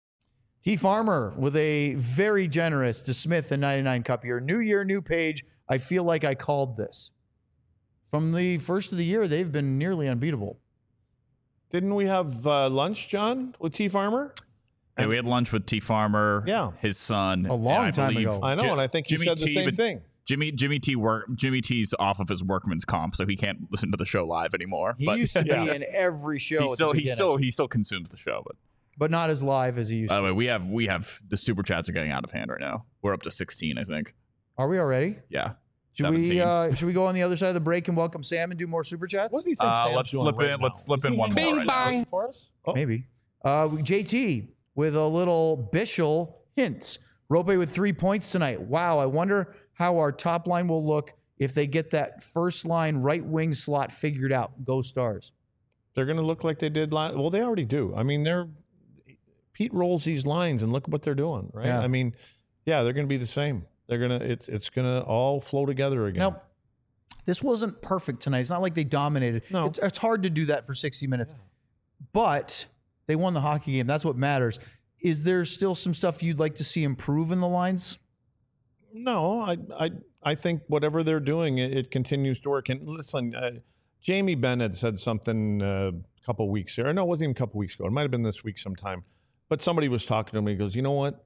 T Farmer with a very generous to Smith and ninety-nine Cup year. New year, new page. I feel like I called this. From the first of the year, they've been nearly unbeatable. Didn't we have uh, lunch, John, with T Farmer? Yeah, we had lunch with T Farmer, Yeah. his son. A long and I time believe ago. I know, Ji- and I think he Jimmy said the T, same but thing. Jimmy Jimmy T work Jimmy T's off of his workman's comp, so he can't listen to the show live anymore. He but used to Yeah. be in every show. he at still the he beginning, still he still consumes the show. But but not as live as he used by to. the way, we have we have the super chats are getting out of hand right now. We're up to sixteen, I think. Are we already? Yeah. Should we seventeen. uh, should we go on the other side of the break and welcome Sam and do more super chats? What do you think? Uh, Sam's let's doing slip right in- now? let's slip Is in he one hanging more out right now. for us? Oh. Maybe. Uh, J T with a little Bishel hints. Rope with three points tonight. Wow, I wonder how our top line will look if they get that first line right wing slot figured out. Go Stars. They're going to look like they did last. Well, they already do. I mean, they're Pete rolls these lines, and look what they're doing, right? Yeah. I mean, yeah, they're going to be the same. They're gonna it's it's going to all flow together again. Now, this wasn't perfect tonight. It's not like they dominated. No. It's, it's hard to do that for sixty minutes, but they won the hockey game. That's what matters. Is there still some stuff you'd like to see improve in the lines? No, I I I think whatever they're doing, it, it continues to work. And listen, uh, Jamie Bennett said something uh, a couple weeks ago. No, it wasn't even a couple weeks ago. It might have been this week sometime. But somebody was talking to me. He goes, you know what?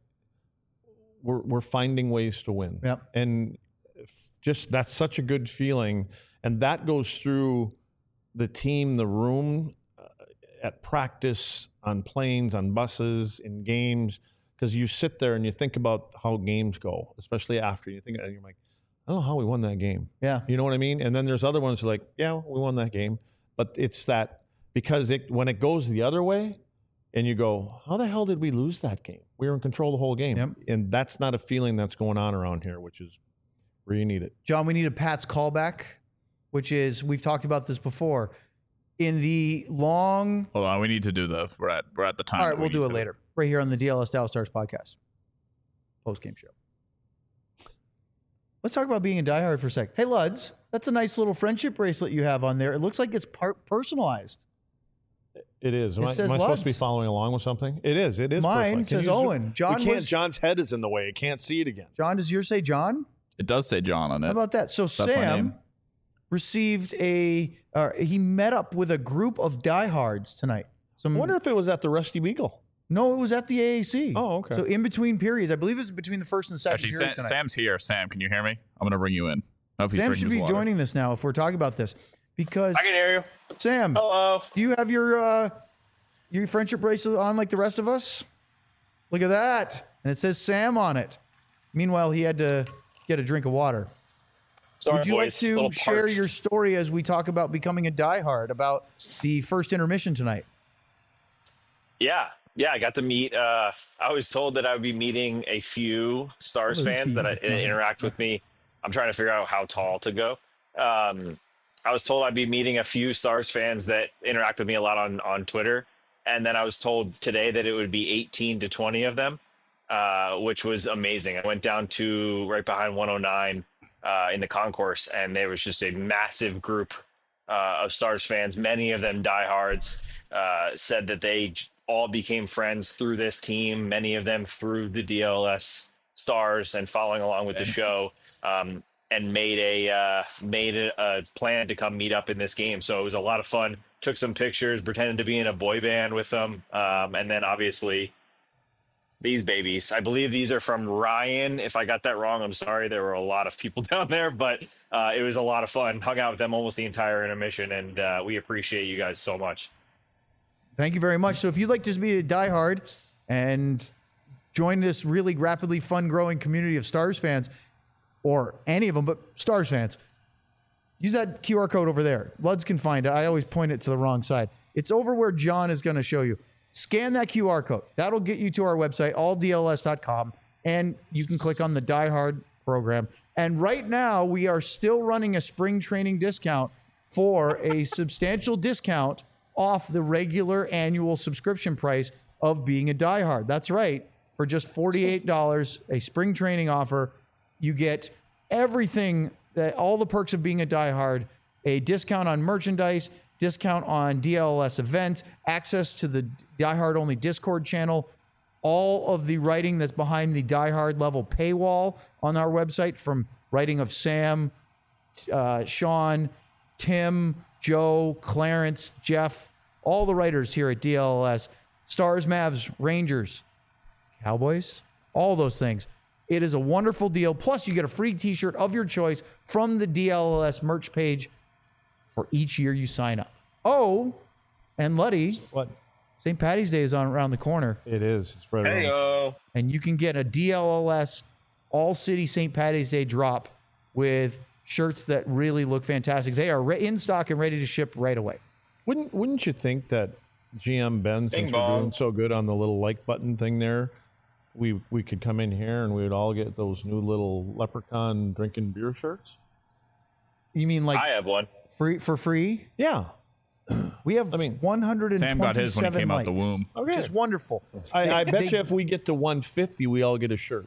We're we're finding ways to win. Yep. And f- just that's such a good feeling, and that goes through the team, the room, uh, at practice, on planes, on buses, in games. Because you sit there and you think about how games go, especially after you think, and you're like, I don't know how we won that game. Yeah. You know what I mean? And then there's other ones who are like, yeah, we won that game. But it's that because it when it goes the other way and you go, how the hell did we lose that game? We were in control the whole game. Yep. And that's not a feeling that's going on around here, which is where you need it. John, we need a Pat's callback, which is, we've talked about this before. In the long, Hold on, we need to do the we're at we're at the time. all right, that we we'll do need it to- later, right here on the D L S Dallas Stars podcast, post-game show. Let's talk about being a diehard for a sec. Hey, Luds, that's a nice little friendship bracelet you have on there. It looks like it's part personalized. It is. Am, It I, says am I supposed to be Luds. following along with something? It is. It is. Mine personalized. Can says you zoom- Owen. John we can't. was- John's head is in the way. I can't see it again. John, does yours say John? It does say John on it. How about that? So my Sam name. received a, uh, he met up with a group of diehards tonight. Some, I wonder if it was at the Rusty Beagle. no, it was at the A A C. Oh, okay. So in between periods, I believe it was between the first and second Actually, period Sam, tonight. Sam's here. Sam, can you hear me? I'm gonna bring you in. I hope he's Sam drinking should his be water. joining this now if we're talking about this, because I can hear you. Sam, Hello. do you have your uh, your friendship bracelet on like the rest of us? Look at that, and it says Sam on it. Meanwhile, he had to get a drink of water. Sorry, Would you like boys. to Little share parched. your story as we talk about becoming a diehard about the first intermission tonight? Yeah, yeah. I got to meet. Uh, I was told that I would be meeting a few Stars What is fans he that I, doing? interact with me. I'm trying to figure out how tall to go. Um, I was told I'd be meeting a few Stars fans that interact with me a lot on on Twitter, and then I was told today that it would be eighteen to twenty of them, uh, which was amazing. I went down to right behind one oh nine uh, in the concourse, and there was just a massive group uh, of Stars fans. Many of them diehards. Uh, said that they j- all became friends through this team. Many of them through the D L S Stars and following along with the show. Um, and made a uh, made a, a plan to come meet up in this game. So it was a lot of fun. Took some pictures, pretended to be in a boy band with them, um, and then obviously these babies. I believe these are from Ryan. If I got that wrong, I'm sorry. There were a lot of people down there, but uh, it was a lot of fun. Hung out with them almost the entire intermission, and uh, we appreciate you guys so much. Thank you very much. So if you'd like to be a diehard and join this really rapidly fun growing community of Stars fans, or any of them, but Stars fans, use that Q R code over there. Luds can find it. I always point it to the wrong side. It's over where John is going to show you. Scan that Q R code. That'll get you to our website, all D L S dot com, and you can click on the Die Hard program. And right now, we are still running a spring training discount for a substantial discount off the regular annual subscription price of being a Die Hard. That's right. For just forty-eight dollars, a spring training offer, you get everything, that all the perks of being a Die Hard, a discount on merchandise, discount on D L S events, access to the Die Hard only Discord channel, all of the writing that's behind the Die Hard level paywall on our website, from writing of Sam, uh, Sean, Tim, Joe, Clarence, Jeff, all the writers here at D L S, Stars, Mavs, Rangers, Cowboys, all those things. It is a wonderful deal. Plus, you get a free t-shirt of your choice from the D L S merch page for each year you sign up. Oh, and Luddy, What? Saint Patty's Day is on around the corner, It is. It's right around. Hey-o. and you can get a D L L S all-city Saint Patty's Day drop with shirts that really look fantastic. They are re- in stock and ready to ship right away. Wouldn't Wouldn't you think that G M Ben, Bing since we're bong. doing so good on the little like button thing there, we we could come in here and we would all get those new little leprechaun drinking beer shirts? You mean like I have one. free for free? Yeah. We have I mean, one hundred twenty-seven Sam got his when he came out likes, the womb. which is wonderful. I, I They- bet they- you if we get to one fifty, we all get a shirt.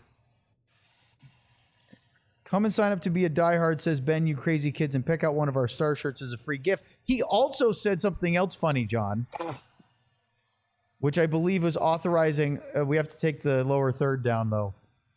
Come and sign up to be a diehard, says Ben, you crazy kids, and pick out one of our star shirts as a free gift. He also said something else funny, John, which I believe was authorizing. Uh, we have to take the lower third down, though.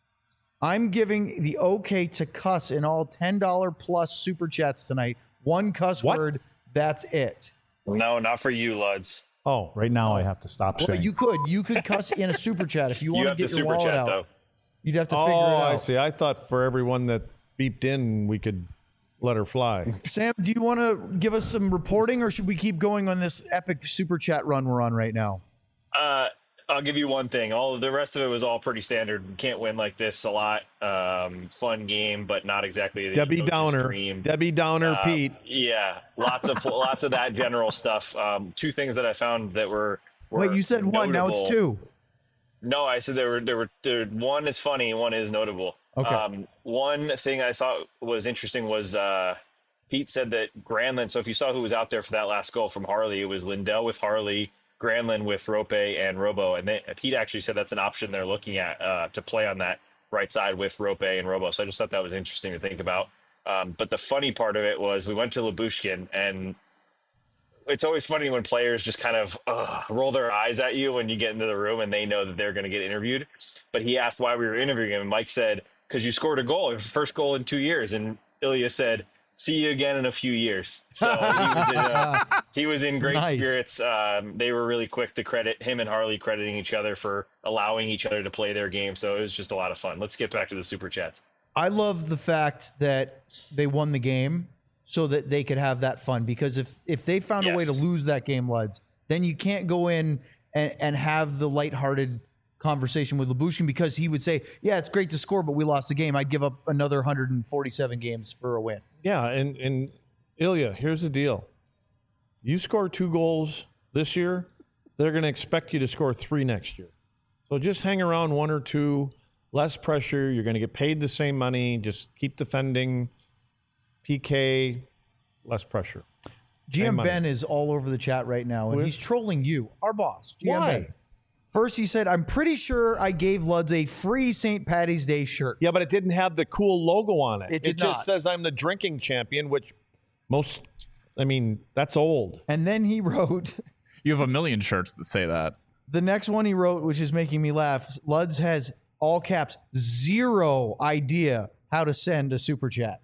I'm giving the okay to cuss in all ten dollars plus super chats tonight. One cuss What? word, that's it. No, not for you, Luds. Oh, right now I have to stop Well, saying. you could. You could cuss in a super chat if you You want to have the get your super wallet chat, out. though. You'd have to figure oh, it out. I see. I thought for everyone that beeped in, we could let her fly. Sam, do you want to give us some reporting, or should we keep going on this epic super chat run we're on right now? Uh, I'll give you one thing. All of the rest of it was all pretty standard. You can't win like this a lot. Um, fun game, but not exactly the Debbie coach's Downer. dream. Debbie Downer, Uh, Pete. Yeah, lots of lots of that general stuff. Um, two things that I found that were, were Wait, you said one, now it's notable. two. No, I said there were there were there, one is funny, one is notable. Okay. Um, one thing I thought was interesting was uh, Pete said that Granlund. So if you saw who was out there for that last goal from Harley, it was Lindell with Harley, Granlund with Rope, and Robo. And they, Pete actually said that's an option they're looking at uh, to play on that right side with Rope and Robo. So I just thought that was interesting to think about. Um, but the funny part of it was we went to Lyubushkin, and it's always funny when players just kind of uh, roll their eyes at you when you get into the room and they know that they're going to get interviewed. But he asked why we were interviewing him, and Mike said, because you scored a goal, your first goal in two years. And Ilya said, see you again in a few years. So he was in, uh, he was in great Nice. spirits. Um, they were really quick to credit him and Harley, crediting each other for allowing each other to play their game. So it was just a lot of fun. Let's get back to the super chats. I love the fact that they won the game so that they could have that fun, because if if they found a way to Yes. lose that game, Luds, then you can't go in and, and have the lighthearted conversation with Lyubushkin, because he would say, yeah, it's great to score, but we lost the game. I'd give up another one hundred forty-seven games for a win. Yeah, and, and Ilya, here's the deal. You score two goals this year, they're going to expect you to score three next year. So just hang around one or two, less pressure. You're going to get paid the same money. Just keep defending. P K, less pressure. G M Same money. Ben is all over the chat right now, and With- he's trolling you, our boss. G M Why? Ben. First, he said, I'm pretty sure I gave Luds a free Saint Patty's Day shirt. Yeah, but it didn't have the cool logo on it. It did just not. says I'm the drinking champion, which most, I mean, that's old. And then he wrote, You have a million shirts that say that. the next one he wrote, which is making me laugh, Luds has, all caps, zero idea how to send a super chat.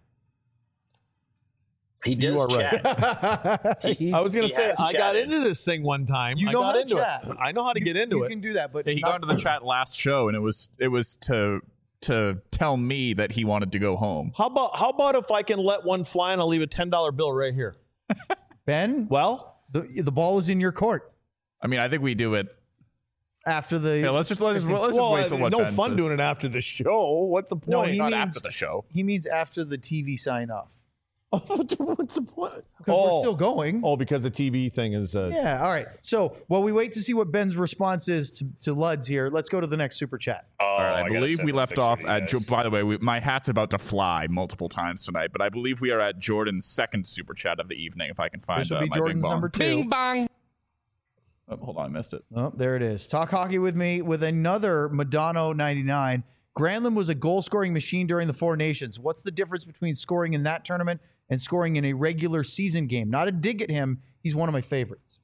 He does You are right. chat. He's- I was going he to say, has I got chatted. into this thing one time. You I know got how to into chat. it. I know how to you, get into you it. can do that, but Yeah, he not- got into the chat last show, and it was it was to to tell me that he wanted to go home. How about how about if I can let one fly and I'll leave a ten dollar bill right here? Ben, Well, the, the ball is in your court I mean, I think we do it. after the. Yeah, let's just let's just, let's just well, wait till what no Ben fun says. doing it after the show. What's the point? No, he Not means- after the show. he means after the T V sign off. Oh, what's the point? Because we're still going. Oh, because the T V thing is. Uh, Yeah. All right. So while we wait to see what Ben's response is to, to Luds here, let's go to the next super chat. Oh, All right, I, I gotta believe send we this left picture off to you at. guys. Jo- by the way, we, my hat's about to fly multiple times tonight, but I believe we are at Jordan's second super chat of the evening. If I can find This will uh, be my big Jordan's bong. number two. Bing bong. Oh, hold on, I missed it. Oh, there it is. Talk hockey with me with another Madonna ninety-nine. Granlund was a goal-scoring machine during the Four Nations. What's the difference between scoring in that tournament and scoring in a regular season game? Not a dig at him. He's one of my favorites.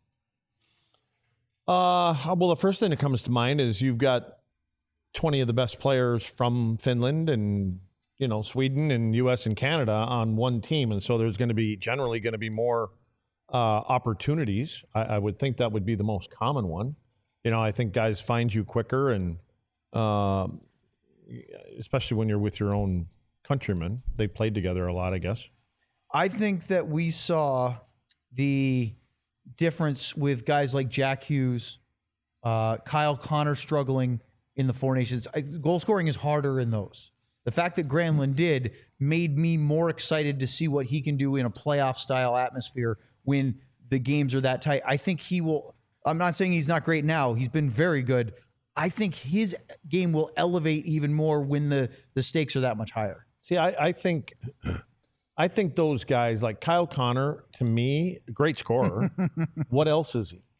Uh, well, the first thing that comes to mind is you've got twenty of the best players from Finland and, you know, Sweden and U S and Canada on one team. And so there's going to be generally going to be more uh, opportunities. I, I would think that would be the most common one. You know, I think guys find you quicker, and uh, especially when you're with your own countrymen. They played together a lot, I guess. I think that we saw the difference with guys like Jack Hughes, uh, Kyle Connor struggling in the Four Nations. I, goal scoring is harder in those. The fact that Granlund did made me more excited to see what he can do in a playoff style atmosphere when the games are that tight. I think he will. I'm not saying he's not great now. He's been very good. I think his game will elevate even more when the, the stakes are that much higher. See, I, I think I think those guys like Kyle Connor, to me, great scorer. What else is he?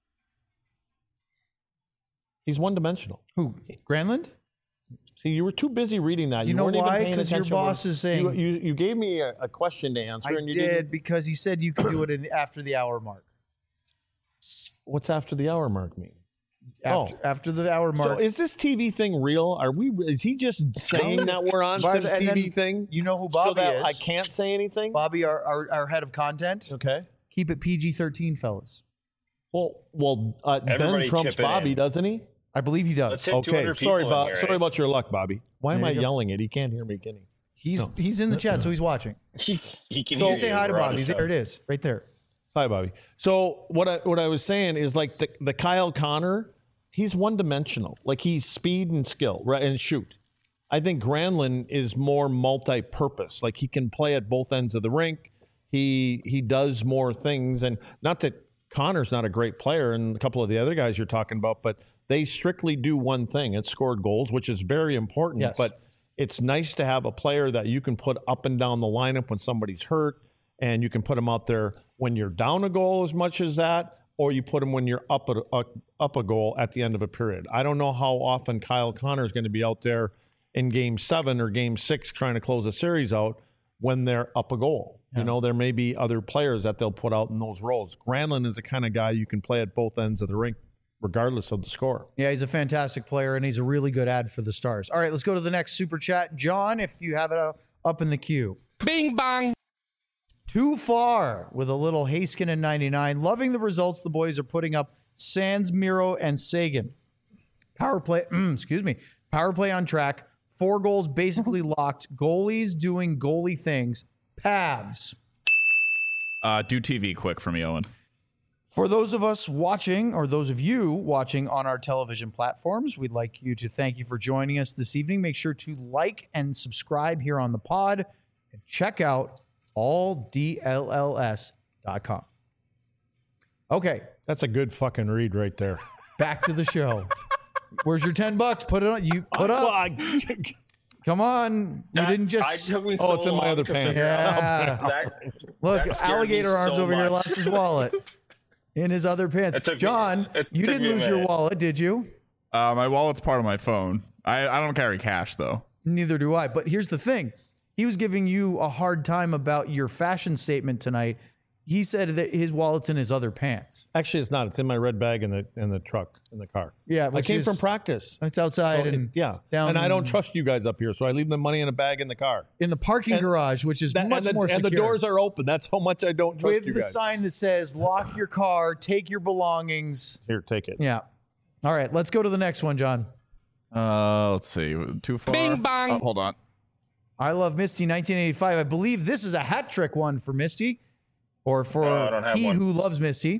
He's one dimensional. Who? Granlund? See, you were too busy reading that. You know weren't why? Even paying 'Cause your attention. boss is saying- you, you, you gave me a, a question to answer, I and you did didn't. because he said you could do it in the, after the hour mark. What's after the hour mark mean? After, Oh. after the hour So mark. is this T V thing real? Are we? Is he just saying that we're on By some the- and T V then thing? you know who so Bobby that is. I can't say anything. Bobby, our, our, our head of content. Okay. Keep it P G thirteen, fellas. Well, well, uh, Ben Everybody trumps chipping Bobby, in. doesn't he? I believe he does. Let's hit Okay. 200 people Sorry in about here, sorry eh? about your luck, Bobby. Why am There I you go. yelling it? He can't hear me, can he? He's No. he's in the chat, so he's watching. He, he can So- hear Say you. hi to We're on Bobby. the show. There it is, right there. Hi, Bobby. So what I what I was saying is like the, the Kyle Connor, he's one dimensional. Like he's speed and skill, right, and shoot. I think Granlund is more multi-purpose. Like he can play at both ends of the rink. He he does more things, and not that Connor's not a great player, and a couple of the other guys you're talking about, but they strictly do one thing: it's scored goals, which is very important. Yes. But it's nice to have a player that you can put up and down the lineup when somebody's hurt, and you can put them out there when you're down a goal as much as that, or you put them when you're up a, a, up a goal at the end of a period. I don't know how often Kyle Connor is going to be out there in game seven or game six trying to close a series out when they're up a goal. Yeah. You know, there may be other players that they'll put out in those roles. Granlund is the kind of guy you can play at both ends of the rink, regardless of the score. Yeah, he's a fantastic player, and he's a really good ad for the Stars. All right, let's go to the next super chat. John, if you have it uh, up in the queue. Bing bong. Too far with a little Haskin ninety-nine. Loving the results the boys are putting up. Sands, Miro, and Sagan. Power play, mm, excuse me. Power play on track. Four goals basically locked. Goalies doing goalie things. Pavs. Uh, do T V quick for me, Owen. For those of us watching, or those of you watching on our television platforms, we'd like you to thank you for joining us this evening. Make sure to like and subscribe here on the pod, and check out all D L L S dot com. Okay, That's a good fucking read right there. back to the show. Where's your ten bucks? Put it on. You put Well, up. I- Come on. You That- didn't I just. took me Oh, so it's in my long other to pants. figure out. Yeah. That, Look, that scared me alligator arms so over here much. lost his wallet in his other pants. It took me- John, it you took didn't me a lose your minute. wallet, did you? Uh, my wallet's part of my phone. I, I don't carry cash though. Neither do I. But here's the thing. He was giving you a hard time about your fashion statement tonight. He said that his wallet's in his other pants. Actually, it's not. It's in my red bag in the in the truck in the car. Yeah, I which came is- from practice. It's outside So it- and yeah, down and I don't trust you guys up here, so I leave the money in a bag in the car. in the parking and garage, which is That- much and, the, more and secure. the doors are open. That's how much I don't trust with you the guys. sign that says "Lock your car, take your belongings." Here, take it. Yeah. All right, let's go to the next one, John. Uh, let's see. Too far. Bing bong. Oh, hold on. I love Misty nineteen eighty-five. I believe this is a hat trick one for Misty, or for No, I don't have he one. who loves Misty.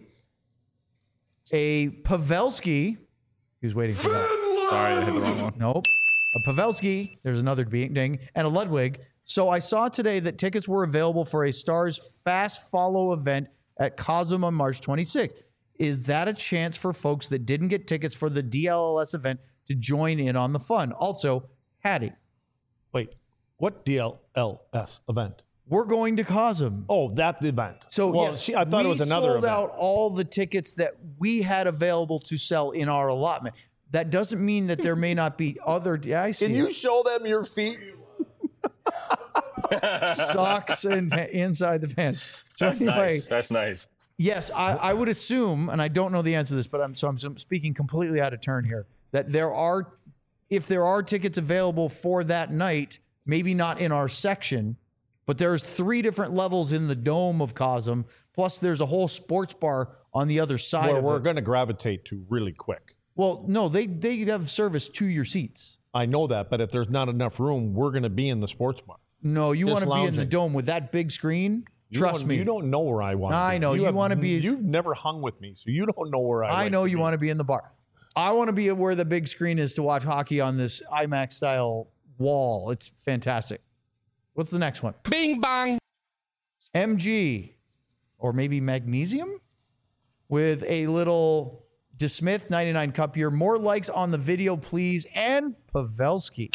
A Pavelski. He was waiting for that. Sorry, I hit the wrong one. Nope. a Pavelski, there's another ding, and a Ludwig. So I saw today that tickets were available for a Stars Fast Follow event at Cosm on March twenty-sixth. Is that a chance for folks that didn't get tickets for the D L L S event to join in on the fun? Also, Hattie. Wait, what D L L S event? We're going to Cosm. Oh, that event. So well, yes, see, I thought we it was another sold event. out all the tickets that we had available to sell in our allotment. That doesn't mean that there may not be other. Yeah, I see. Can you show them your feet? Socks and inside the pants. So That's anyway, nice. That's nice. yes, I, I would assume, and I don't know the answer to this, but I'm so I'm speaking completely out of turn here. That there are, if there are tickets available for that night, maybe not in our section, but there's three different levels in the dome of Cosm. Plus, there's a whole sports bar on the other side. Where of we're it. going to gravitate to really quick. Well, no, they they have service to your seats. I know that, but if there's not enough room, we're going to be in the sports bar. No, you Just want to be in the lounging. dome with that big screen. You Trust don't- me. You don't know where I want to be. I know. You have- wanna be- You've never hung with me, so you don't know where I I like know to you be. want to be in the bar. I want to be where the big screen is to watch hockey on this IMAX style wall. It's fantastic. What's the next one? Bing bang. M G, or maybe Magnesium, with a little DeSmith ninety-nine cup here. More likes on the video, please. And Pavelski.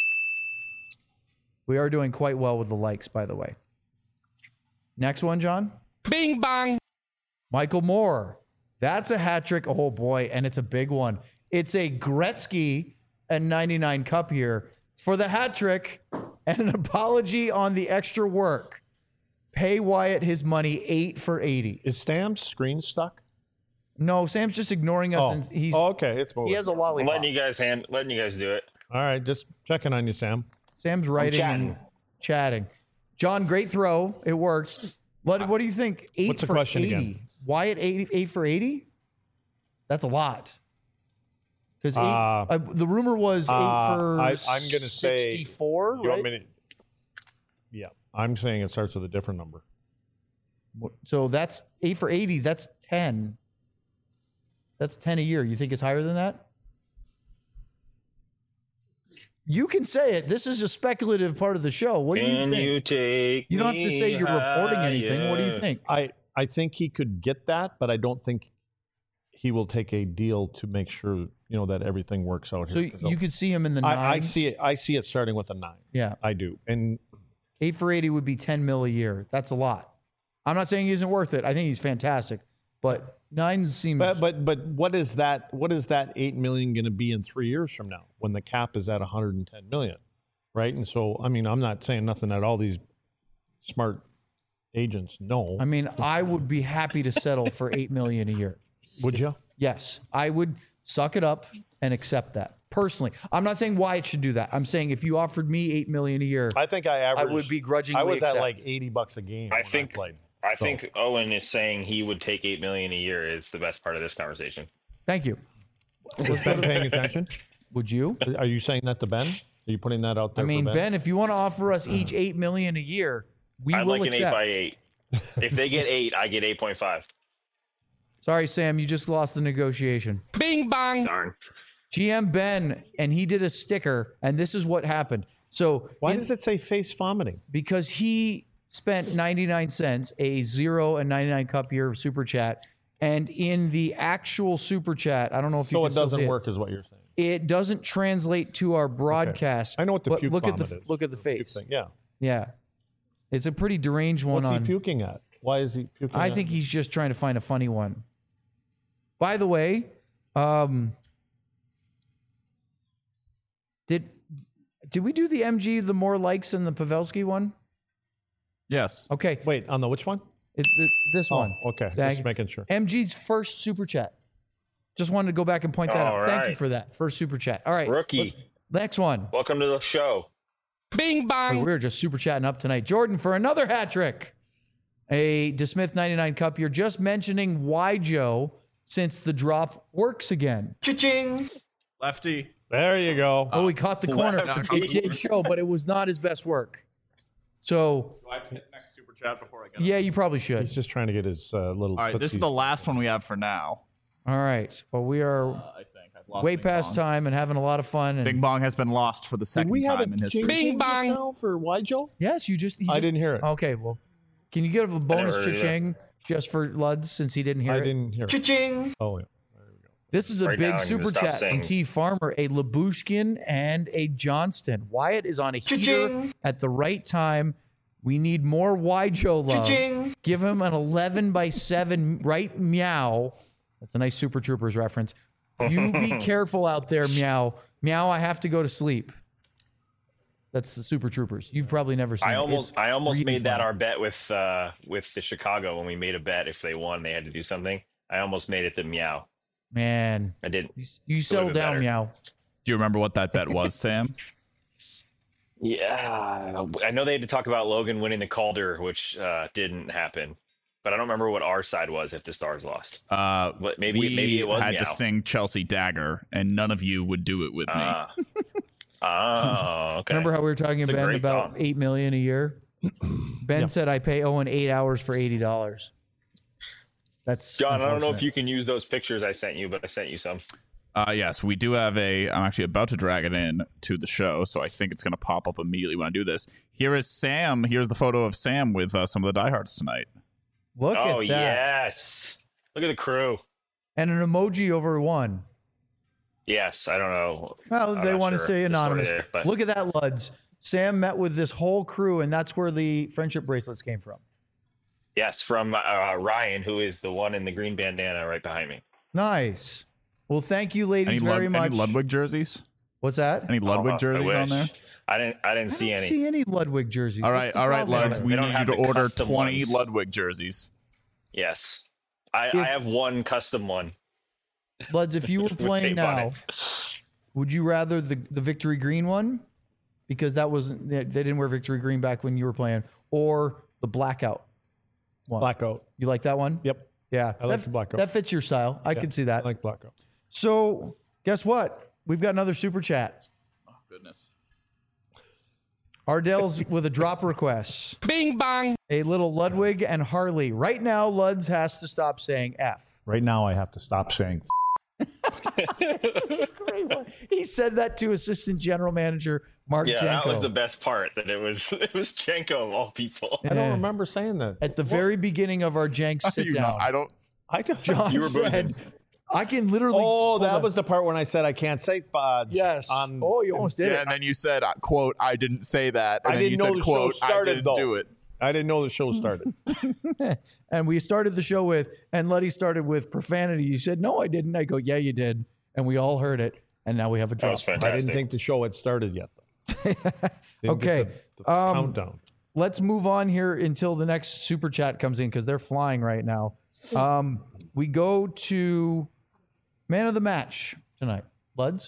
We are doing quite well with the likes, by the way. Next one, John. Bing bang. Michael Moore. That's a hat trick. Oh, boy. And it's a big one. It's a Gretzky and ninety-nine cup here for the hat trick and an apology on the extra work. Pay Wyatt his money eight for eighty. Is Sam's screen stuck? No, Sam's just ignoring us. Oh, And he's, oh, okay. It's moving. he has a I'm lollipop. letting you guys hand, letting you guys do it. All right, just checking on you, Sam. Sam's writing chatting. and chatting. John, great throw. It works. What, what do you think? Eight What's the for question eighty. again? Wyatt eight, eight for eighty? That's a lot. Because Uh, uh, the rumor was eight uh, for I- I'm gonna say- sixty-four, You right? want me to? Yeah, I'm saying it starts with a different number. So that's eight for eighty. That's ten. That's ten a year. You think it's higher than that? You can say it. This is a speculative part of the show. What do you Can think? you take You don't have to say me you're reporting anything. What do you higher? think? I I think he could get that, but I don't think he will take a deal to make sure you know that everything works out So here. you could see him in the nines. I, I see it. I see it starting with a nine. Yeah. I do. And Eight for eighty would be ten mil a year. That's a lot. I'm not saying he isn't worth it. I think he's fantastic. But nine seems. but but but what is that? What is that eight million going to be in three years from now when the cap is at one hundred ten million, right? And so I mean, I'm not saying nothing that all these smart agents know. I mean, I would be happy to settle for eight million a year. Would you? Yes, I would suck it up and accept that personally. I'm not saying Wyatt should do that. I'm saying if you offered me eight million a year, I think I I averaged. would begrudgingly I was accept. at like eighty bucks a game. I when think- I played. I So- think Owen is saying he would take eight million a year is the best part of this conversation. Thank you. Was Ben paying attention? Would you? Are you saying that to Ben? Are you putting that out I there? mean, for Ben, if you want to offer us each Uh-huh. eight million a year, we I'd will like an accept. eight by eight. If they get eight, I get eight point five. Sorry, Sam, you just lost the negotiation. Bing bang. Darn. G M Ben, and he did a sticker, and this is what happened. So Why in- does it say face vomiting? because he spent ninety-nine cents, a zero and ninety-nine cup year of super chat, and in the actual super chat, I don't know if you So can it still doesn't see work, is what you're saying. It. It doesn't translate to our broadcast. I know what the but puke look at the vomit is. look at the puke face. thing. Yeah. Yeah, it's a pretty deranged one. What's on he puking at? Why is he puking? I at? think he's just trying to find a funny one. By the way, um, did did we do the M G the more likes than the Pavelski one? Yes. Okay, Wait, on the which one? it, th- this Oh, one. okay. Thank Just you. making sure. M G's first super chat. Just wanted to go back and point that All out. Thank you right. for that first super chat. All right, Rookie. next one. Welcome to the show. Bing bang. We're just super chatting up tonight. Jordan for another hat trick. A DeSmith ninety-nine cup. You're just mentioning why, Joe, since the drop works again. Lefty. There you go. Oh, he caught the corner. Lefty. It did show, but it was not his best work. So, Do I hit next super chat before I get yeah, you probably should. He's just trying to get his uh, little. All right, this is tootsies. the last one we have for now. All right. Well, we Uh, are I think. I lost way Bing past Bong. time and having a lot of fun. And Bing Bong has been lost for the Did second we have a time in history. ching Bing ching just bong. now for why, Joe? yes, you just. he I just- didn't hear it. Okay, well, can you give a bonus heard it either. cha-ching just for Luds since he didn't hear I it? didn't hear it. Cha-ching. Oh, yeah. This is a Right big now, I'm gonna super stop chat from saying- T Farmer, a Labushkin and a Johnston. Wyatt is on a heater at the right time. We need more Y Joe love. Give him an eleven by seven right meow. That's a nice Super Troopers reference. You be careful out there, meow. Meow, I have to go to sleep. That's the Super Troopers. You've probably never seen I it. almost It's I almost really made that funny. our bet with uh with the Chicago when we made a bet if they won they had to do something. I almost made it the meow. Man, I did. you, you settle been down, better. meow. Do you remember what that bet was, Sam? Yeah, I know they had to talk about Logan winning the Calder, which uh, didn't happen. But I don't remember what our side was if the Stars lost. Uh, What maybe we maybe it was had meow. to sing Chelsea Dagger, and none of you would do it with me. Ah. Oh, okay. Remember how we were talking It's a Ben great about song. eight million a year? Ben said I pay Owen eight hours for eighty dollars. That's John, I don't know if unfortunate. you can use those pictures I sent you, but I sent you some. Uh, yes, we do have a. I'm actually about to drag it in to the show, so I think it's going to pop up immediately when I do this. Here is Sam. Here's the photo of Sam with uh, some of the diehards tonight. Look Oh at that. yes. Look at the crew. And an emoji over one. Yes, I don't know. Well, I'm they not want to sure stay the story anonymous. there, but- Look at that, Luds. Sam met with this whole crew, and that's where the friendship bracelets came from. Yes, from uh, Ryan, who is the one in the green bandana right behind me. Nice. Well, thank you, Any, ladies, Lud- very much. any Ludwig jerseys? What's that? Any Ludwig Oh, I jerseys on wish. there? I didn't. I didn't I see don't any. see any Ludwig jerseys. All What's right, the all right, problem Luds. there? We They don't need you have to the order custom twenty ones. Ludwig jerseys. Yes, I, If- I have one custom one. Luds, if you were with playing tape on now, it. would you rather the, the victory green one? Because that wasn't, they they didn't wear victory green back when you were playing, or the blackout one? Blackout. You like that one? Yep. Yeah. I like that, the blackout. That fits your style. I Yeah, could see I that. like blackout. So, guess what? We've got another super chat. Oh goodness. Ardell's with a drop request. Bing bong. A little Ludwig and Harley. Right now, Luds has to stop saying F. Right now, I have to stop saying. Great one. He said that to assistant general manager Mark Yeah, Janko. that was the best part. That it was it was Jenko of all people. I don't remember saying that. At the very beginning of our Jank sit You know, down, I don't. I don't. John You were said, boozing. I can literally. Oh, hold that on. was the part when I said I can't say fudge. Yes. On, oh, you almost did Yeah, it. and then you said, uh, "quote I didn't say that." And I then didn't you know said, the show "Quote I started, didn't though. do it." I didn't know the show started. And we started the show with, and Letty started with profanity. You said, no, I didn't. I go, yeah, you did. And we all heard it. And now we have a That drop. was I fantastic. didn't think the show had started yet. Though. Didn't Okay, get the- the um, countdown. Let's move on here until the next super chat comes in because they're flying right now. Um, we go to man of the match tonight. Luds?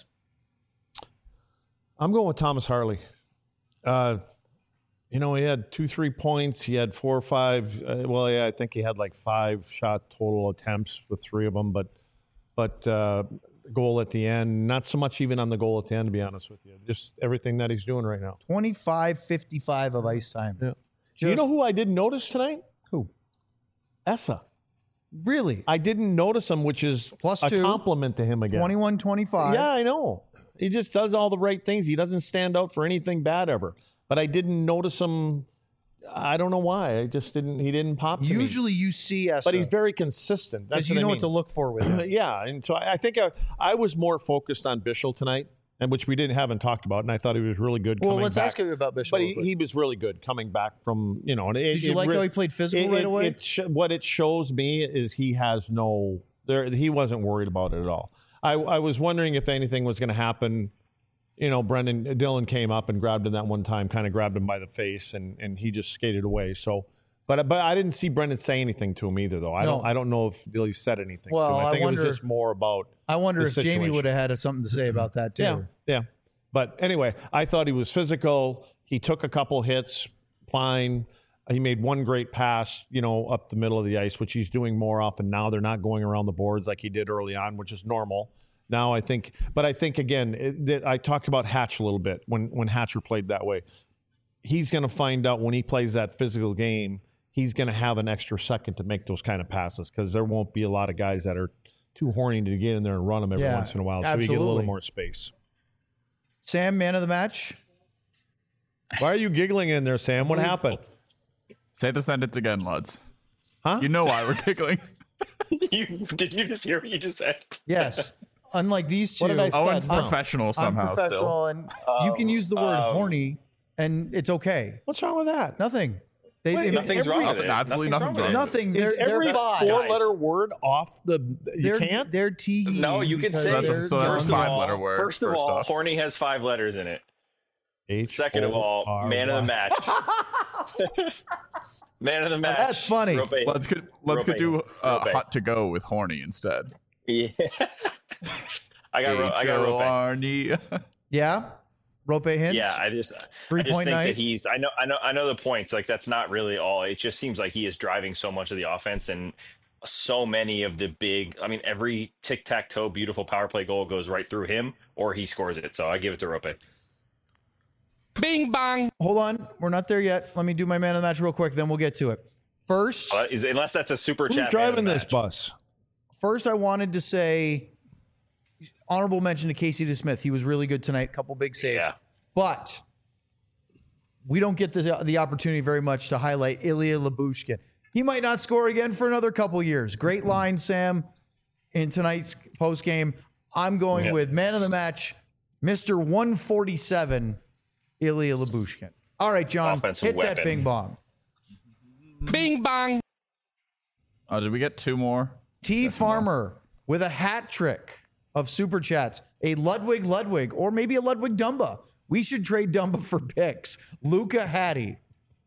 I'm going with Thomas Harley. Uh, you know, he had two, three points. He had four or five. Uh, well, yeah, I think he had like five shot total attempts with three of them, but but uh, the goal at the end, not so much even on the goal at the end, to be honest with you. Just everything that he's doing right now. twenty-five fifty-five of ice time. Yeah. Just- you know who I didn't notice tonight? Who? Essa. Really? I didn't notice him, which is Plus a two. compliment to him again. twenty-one twenty-five. Yeah, I know. He just does all the right things. He doesn't stand out for anything bad ever. But I didn't notice him. I don't know why. I just didn't. He didn't pop. To me. Usually you see us. but he's very consistent. That's because you what I know mean. what to look for with him. Yeah, and so I, I think I, I was more focused on Bischel tonight, and which we didn't haven't talked about, and I thought he was really good. Well, coming let's back. ask you about Bishop. But real he, quick. he was really good coming back from you know. And it, Did you it like re- how he played physical it- right it- away? It sh- what it shows me is he has no there. He wasn't worried about it at all. I, I was wondering if anything was going to happen. You know, Brendan Dylan came up and grabbed him that one time, kind of grabbed him by the face, and and he just skated away. So, but but I didn't see Brendan say anything to him either, though. I No. don't I don't know if Dilly said anything. Well, to him. I I think it wonder- was just more about I wonder the if Jamie situation. would have had something to say about that too. yeah, yeah. But anyway, I thought he was physical. He took a couple hits, fine. He made one great pass, you know, up the middle of the ice, which he's doing more often now. They're not going around the boards like he did early on, which is normal. Now I think, but I think again, it, that I talked about Hatch a little bit when when Hatcher played that way. He's going to find out when he plays that physical game, he's going to have an extra second to make those kind of passes because there won't be a lot of guys that are too horny to get in there and run them every Yeah, once in a while, so we get a little absolutely. more space. Sam, man of the match. Why are you giggling in there, Sam? What happened? Say the sentence again, Luds. Huh? You know why we're giggling. you, did you just hear what you just said? Yes. Unlike these two, What did I say? Owen's No. professional I'm somehow professional, still. and you can use the word um, horny, and it's okay. What's wrong with that? Nothing. They, Wait, they- Nothing's every- wrong with Nothing, it. absolutely Nothing's nothing wrong with nothing. Is They're, they're every fine. four-letter word off the? You They're, can't. They're tee. it. No, you can because say. That's a- they're- so that's a first of five-letter all- word, First of first all, off. horny has five letters in it. H Second of all, O R man of the Y. match. Man of the match. That's funny. Rope. Let's could let's could do uh, Rope. hot to go with horny instead. Yeah. I got. Ro- I got rope. H-O-R-N-Y. Yeah. Rope hints. Yeah, I just. Three I just point think night. that he's. I know. I know. I know the points. Like that's not really all. It just seems like he is driving so much of the offense, and so many of the big. I mean, every tic tac toe beautiful power play goal goes right through him, or he scores it. So I give it to Rope. Bing bang. Hold on. We're not there yet. Let me do my man of the match real quick, then we'll get to it. First, Uh, is, unless that's a super Who's chat. man of driving the this match. bus? first I wanted to say honorable mention to Casey DeSmith. He was really good tonight. Couple big saves. Yeah. But we don't get the, the opportunity very much to highlight Ilya Lyubushkin. He might not score again for another couple years. Great line, Sam, in tonight's post game. I'm going Yeah. with man of the match, Mister one forty-seven, Ilya Lyubushkin. All right, John, Offensive hit that weapon. bing bong. Bing bang. Oh, did we get two more? T Farmer with a hat trick of super chats. A Ludwig Ludwig, or maybe a Ludwig Dumba. We should trade Dumba for picks. Luca Hattie.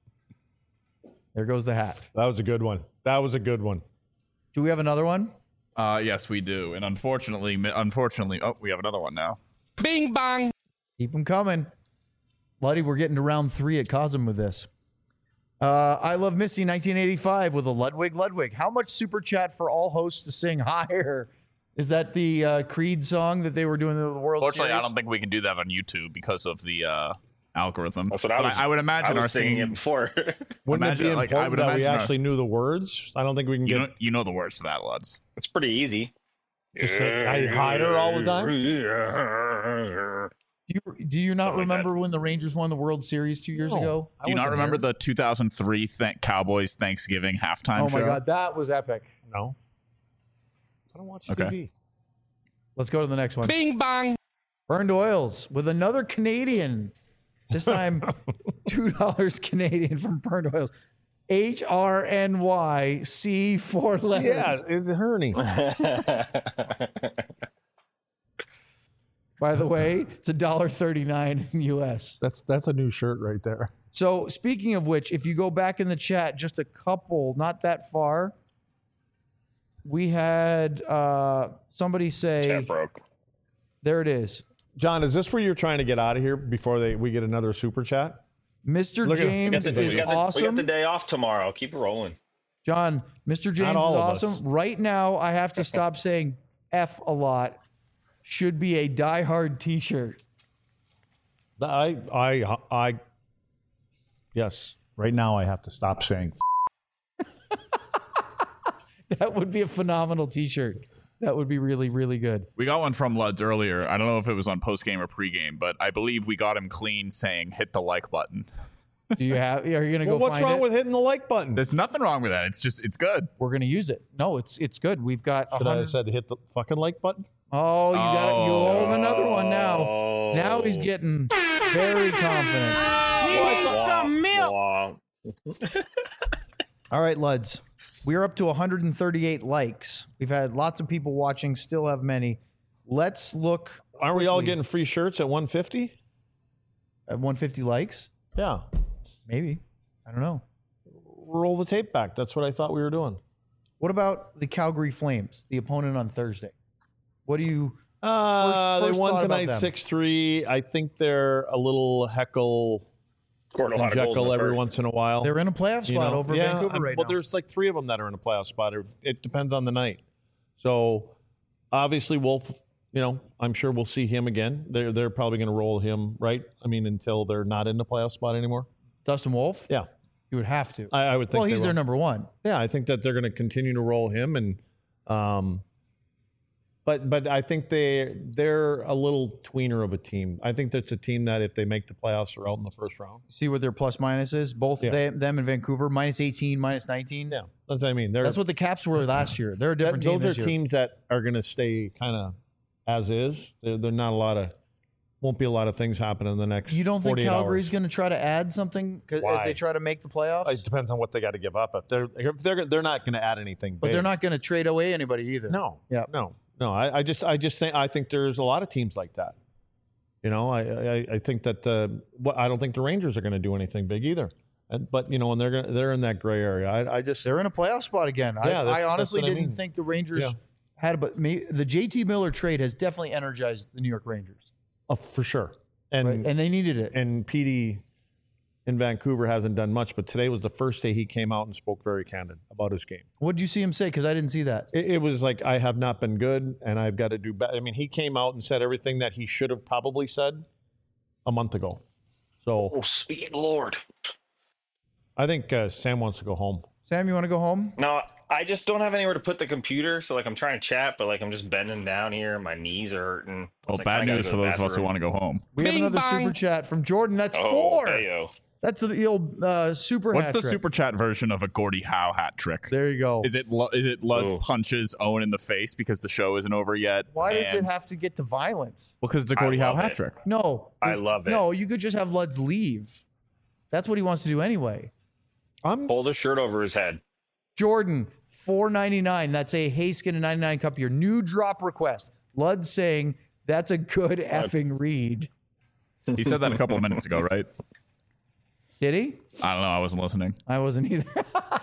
There goes the hat. That was a good one. That was a good one. Do we have another one? Uh, yes, we do. And unfortunately, mi- unfortunately, oh, we have another one now. Bing bang. Keep them coming. Luddy, we're getting to round three at Cosm with this. Uh, I Love Misty nineteen eighty-five with a Ludwig Ludwig. How much super chat for all hosts to sing higher? Is that the uh, Creed song that they were doing in the World Fortunately, Series? I don't think we can do that on YouTube because of the uh, algorithm. That's what I But was. I, would imagine I our was singing singing. it before. Wouldn't Imagine, it be like, I important would that we imagine our- actually knew the words? I don't think we can You get know, you know the words to that, Luds. It's pretty easy. just say, I hide her all the time. Do you, do you not Something like remember when the Rangers won the World Series two years No. ago? I Do you not wasn't remember there. the two thousand three th- Cowboys Thanksgiving halftime Oh show? my God, that was epic. No. I don't watch Okay. T V. Let's go to the next one. Bing bang. Burned Oils with another Canadian. This time, two dollars Canadian from Burned Oils. H R N Y C four letters. Yeah, it's Herney. By the way, it's a dollar thirty-nine in U S. That's that's a new shirt right there. So speaking of which, if you go back in the chat just a couple, not that far, we had uh, somebody say, Chat broke. there it is. John, is this where you're trying to get out of here before they we get another super chat? Mister Look at- we James We got, the, we, is got the, we awesome. got the day off tomorrow. Keep it rolling. John, Mister James is all of us. awesome. Right now, I have to stop saying F a lot. Should be a Die Hard t-shirt. I I I yes. Right now I have to stop saying That would be a phenomenal t-shirt. That would be really, really good. We got one from Luds earlier. I don't know if it was on post game or pre game, but I believe we got him clean saying hit the like button. Do you have, are you going to go Well, what's find wrong it? with hitting the like button? There's nothing wrong with that. It's just it's good. We're going to use it. No, it's it's good. We've got a Should I hundred. have said hit the fucking like button? Oh, you got it. You owe him another one now. Oh. Now he's getting very confident. Wah, wah. All right, Luds. We are up to one hundred thirty-eight likes. We've had lots of people watching, still have many. Let's look Aren't we all quickly getting free shirts at one fifty? at one hundred fifty likes. Yeah. Maybe. I don't know. Roll the tape back. That's what I thought we were doing. What about the Calgary Flames, the opponent on Thursday? What do you Uh, First- first they won thought about tonight them. six three. I think they're a little heckle Scored a lot and of goals in jekyll the every first. once in a while. They're in a playoff You spot know? over Yeah, Vancouver I'm- right well, now. there's like three of them that are in a playoff spot. It- It depends on the night. So obviously, Wolf. You know, I'm sure we'll see him again. They're they're probably going to roll him, right? I mean, until they're not in the playoff spot anymore. Dustin Wolf? Yeah, You would have to. I, I would think. well, they he's will. their number one. Yeah, I think that they're going to continue to roll him, and um, But but I think they they're a little tweener of a team. I think that's a team that if they make the playoffs, are out in the first round. See what their plus minus is? Both Yeah. they, them and Vancouver, minus eighteen, minus nineteen. Yeah, that's what I mean. They're, That's what the Caps were last year. They're a different that, team those this are year. teams that are going to stay kind of as is. They're, they're not a lot of won't be a lot of things happening in the next. You don't think forty-eight Calgary's hours. going to try to add something 'cause- as Why? they try to make the playoffs? It depends on what they got to give up. If they're if they're they're not going to add anything, but big. they're not going to trade away anybody either. No, Yeah. no, no. I, I just I just think I think there's a lot of teams like that. You know, I I, I think that uh, what I don't think the Rangers are going to do anything big either. And, but you know, and they're gonna, they're in that gray area. I, I just They're in a playoff spot again. Yeah, I, that's- I honestly that's what I didn't mean. think the Rangers Yeah. had, but me, the J T Miller trade has definitely energized the New York Rangers, oh, for sure. And right? and they needed it. and P D in Vancouver hasn't done much, but today was the first day he came out and spoke very candid about his game. What did you see him say? Because I didn't see that. It, it was like, I have not been good and I've got to do better. I mean, he came out and said everything that he should have probably said a month ago. So Oh, sweet Lord. I think uh, Sam wants to go home. Sam, you want to go home? No, I just don't have anywhere to put the computer. So like I'm trying to chat, but like I'm just bending down here. My knees are hurting. Well, It's like, bad I gotta news go for to the those of us who bathroom. want to go home. We have Bing another bong. super chat from Jordan. That's Oh, four. heyo. That's the old uh, super What's hat the trick. super chat version of a Gordie Howe hat trick? There you go. Is it Lu- is it Lud's Ooh. punches Owen in the face because the show isn't over yet? Why does and- it have to get to violence? Because it's a I Gordie Howe love hat it. trick. No. I love it. No, you could just have Luds leave. That's what he wants to do anyway. I'm Pull the shirt over his head. Jordan, four ninety-nine. That's a Haskin and ninety-nine cup. Your new drop request. Lud saying that's a good effing read. He said that a couple of minutes ago, right? Did he? I don't know. I wasn't listening. I wasn't either.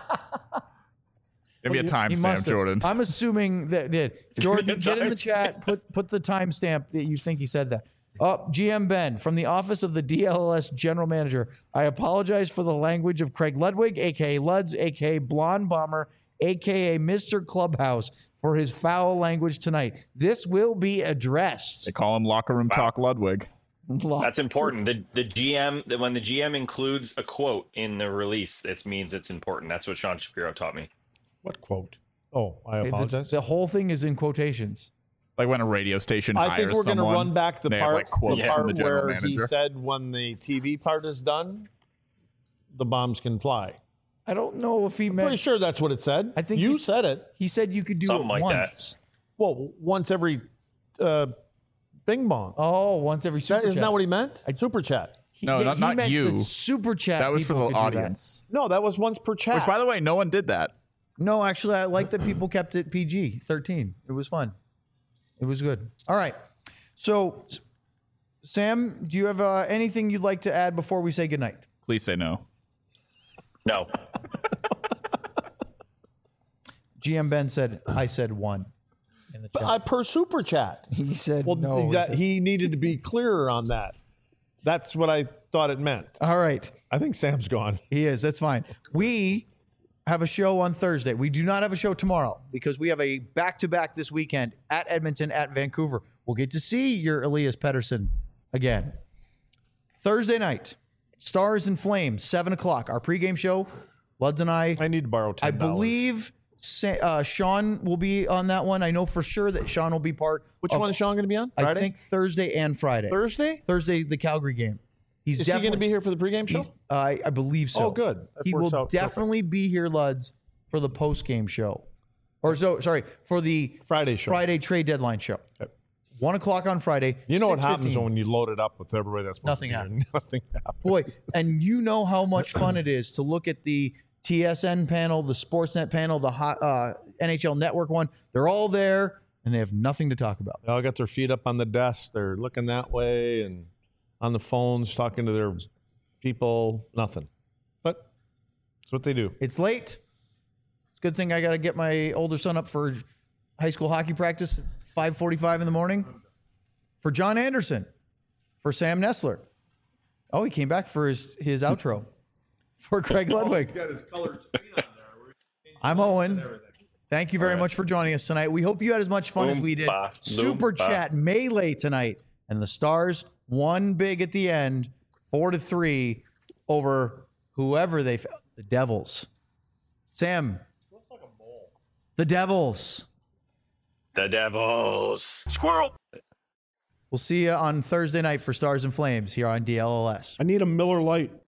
Give me a He timestamp, must have. Jordan. I'm assuming that did. Jordan, a get in the timestamp. chat. Put put the timestamp that you think he said that. Up, G M Ben from the office of the D L L S general manager. I apologize for the language of Craig Ludwig, aka Luds, aka Blonde Bomber, aka Mister Clubhouse, for his foul language tonight. This will be addressed. They call him locker room talk Ludwig. That's important. The the G M that when the G M includes a quote in the release, it means it's important. That's what Sean Shapiro taught me. what quote? Oh, I It's- apologize. The whole thing is in quotations. Like when a radio station I hires think we're going to someone, run back the they have, part, like, quotes the from part the general where he manager. said when the T V part is done, the bombs can fly. I don't know if he I'm meant. pretty sure that's what it said. I think you he's- said it. He said you could do Something it like that. once. Well, once every uh, bing bong. Oh, once every super that, isn't chat. that what he meant? Super chat. He- No, yeah, not- he not meant you. the super chat. That was for people the could do that. audience. No, that was once per chat. Which, by the way, no one did that. No, actually, I like that people kept it P G thirteen. It was fun. It was good. All right. So, Sam, do you have uh, anything you'd like to add before we say goodnight? Please say no. No. G M Ben said, I said one in the chat. I per super chat. He said Well, no. that, he needed to be clearer on that. That's what I thought it meant. All right. I think Sam's gone. He is. That's fine. We have a show on Thursday. We do not have a show tomorrow because we have a back-to-back this weekend at Edmonton, at Vancouver. We'll get to see your Elias Pettersson again. Thursday night, Stars and Flames, seven o'clock. Our pregame show. Luds and I, I need to borrow I ten dollars. believe Sa- uh, Sean will be on that one. I know for sure that Sean will be part. Which of- one is Sean going to be on? I Friday? think Thursday and Friday. Thursday? Thursday, the Calgary game. He's Is he definitely going to be here for the pregame show? He's- I, I believe so. Oh, good. That He works will out perfect. definitely be here, Luds, for the post game show, or so sorry for the Friday show. Friday trade deadline show. Okay. One o'clock on Friday. You know what happens six fifteen. when you load it up with everybody that's supposed Nothing to be here? Nothing happens. Boy, and you know how much fun it is to look at the T S N panel, the Sportsnet panel, the hot, uh, N H L Network one. They're all there, and they have nothing to talk about. They all got their feet up on the desk. They're looking that way and on the phones, talking to their people. Nothing. But that's what they do. It's late. It's a good thing I got to get my older son up for high school hockey practice at five forty-five in the morning. For John Anderson, for Sam Nessler. Oh, he came back for his, his outro. For Craig Ludwig. got his colored screen on there. I'm Owen. Thank you very much for joining us tonight. We hope you had as much fun as we did. Oompa, Super loompa. chat melee tonight. And the Stars won big at the end, four to three over whoever they f- the Devils. Sam. The Devils. The Devils. Squirrel. We'll see you on Thursday night for Stars and Flames here on D L L S. I need a Miller Lite.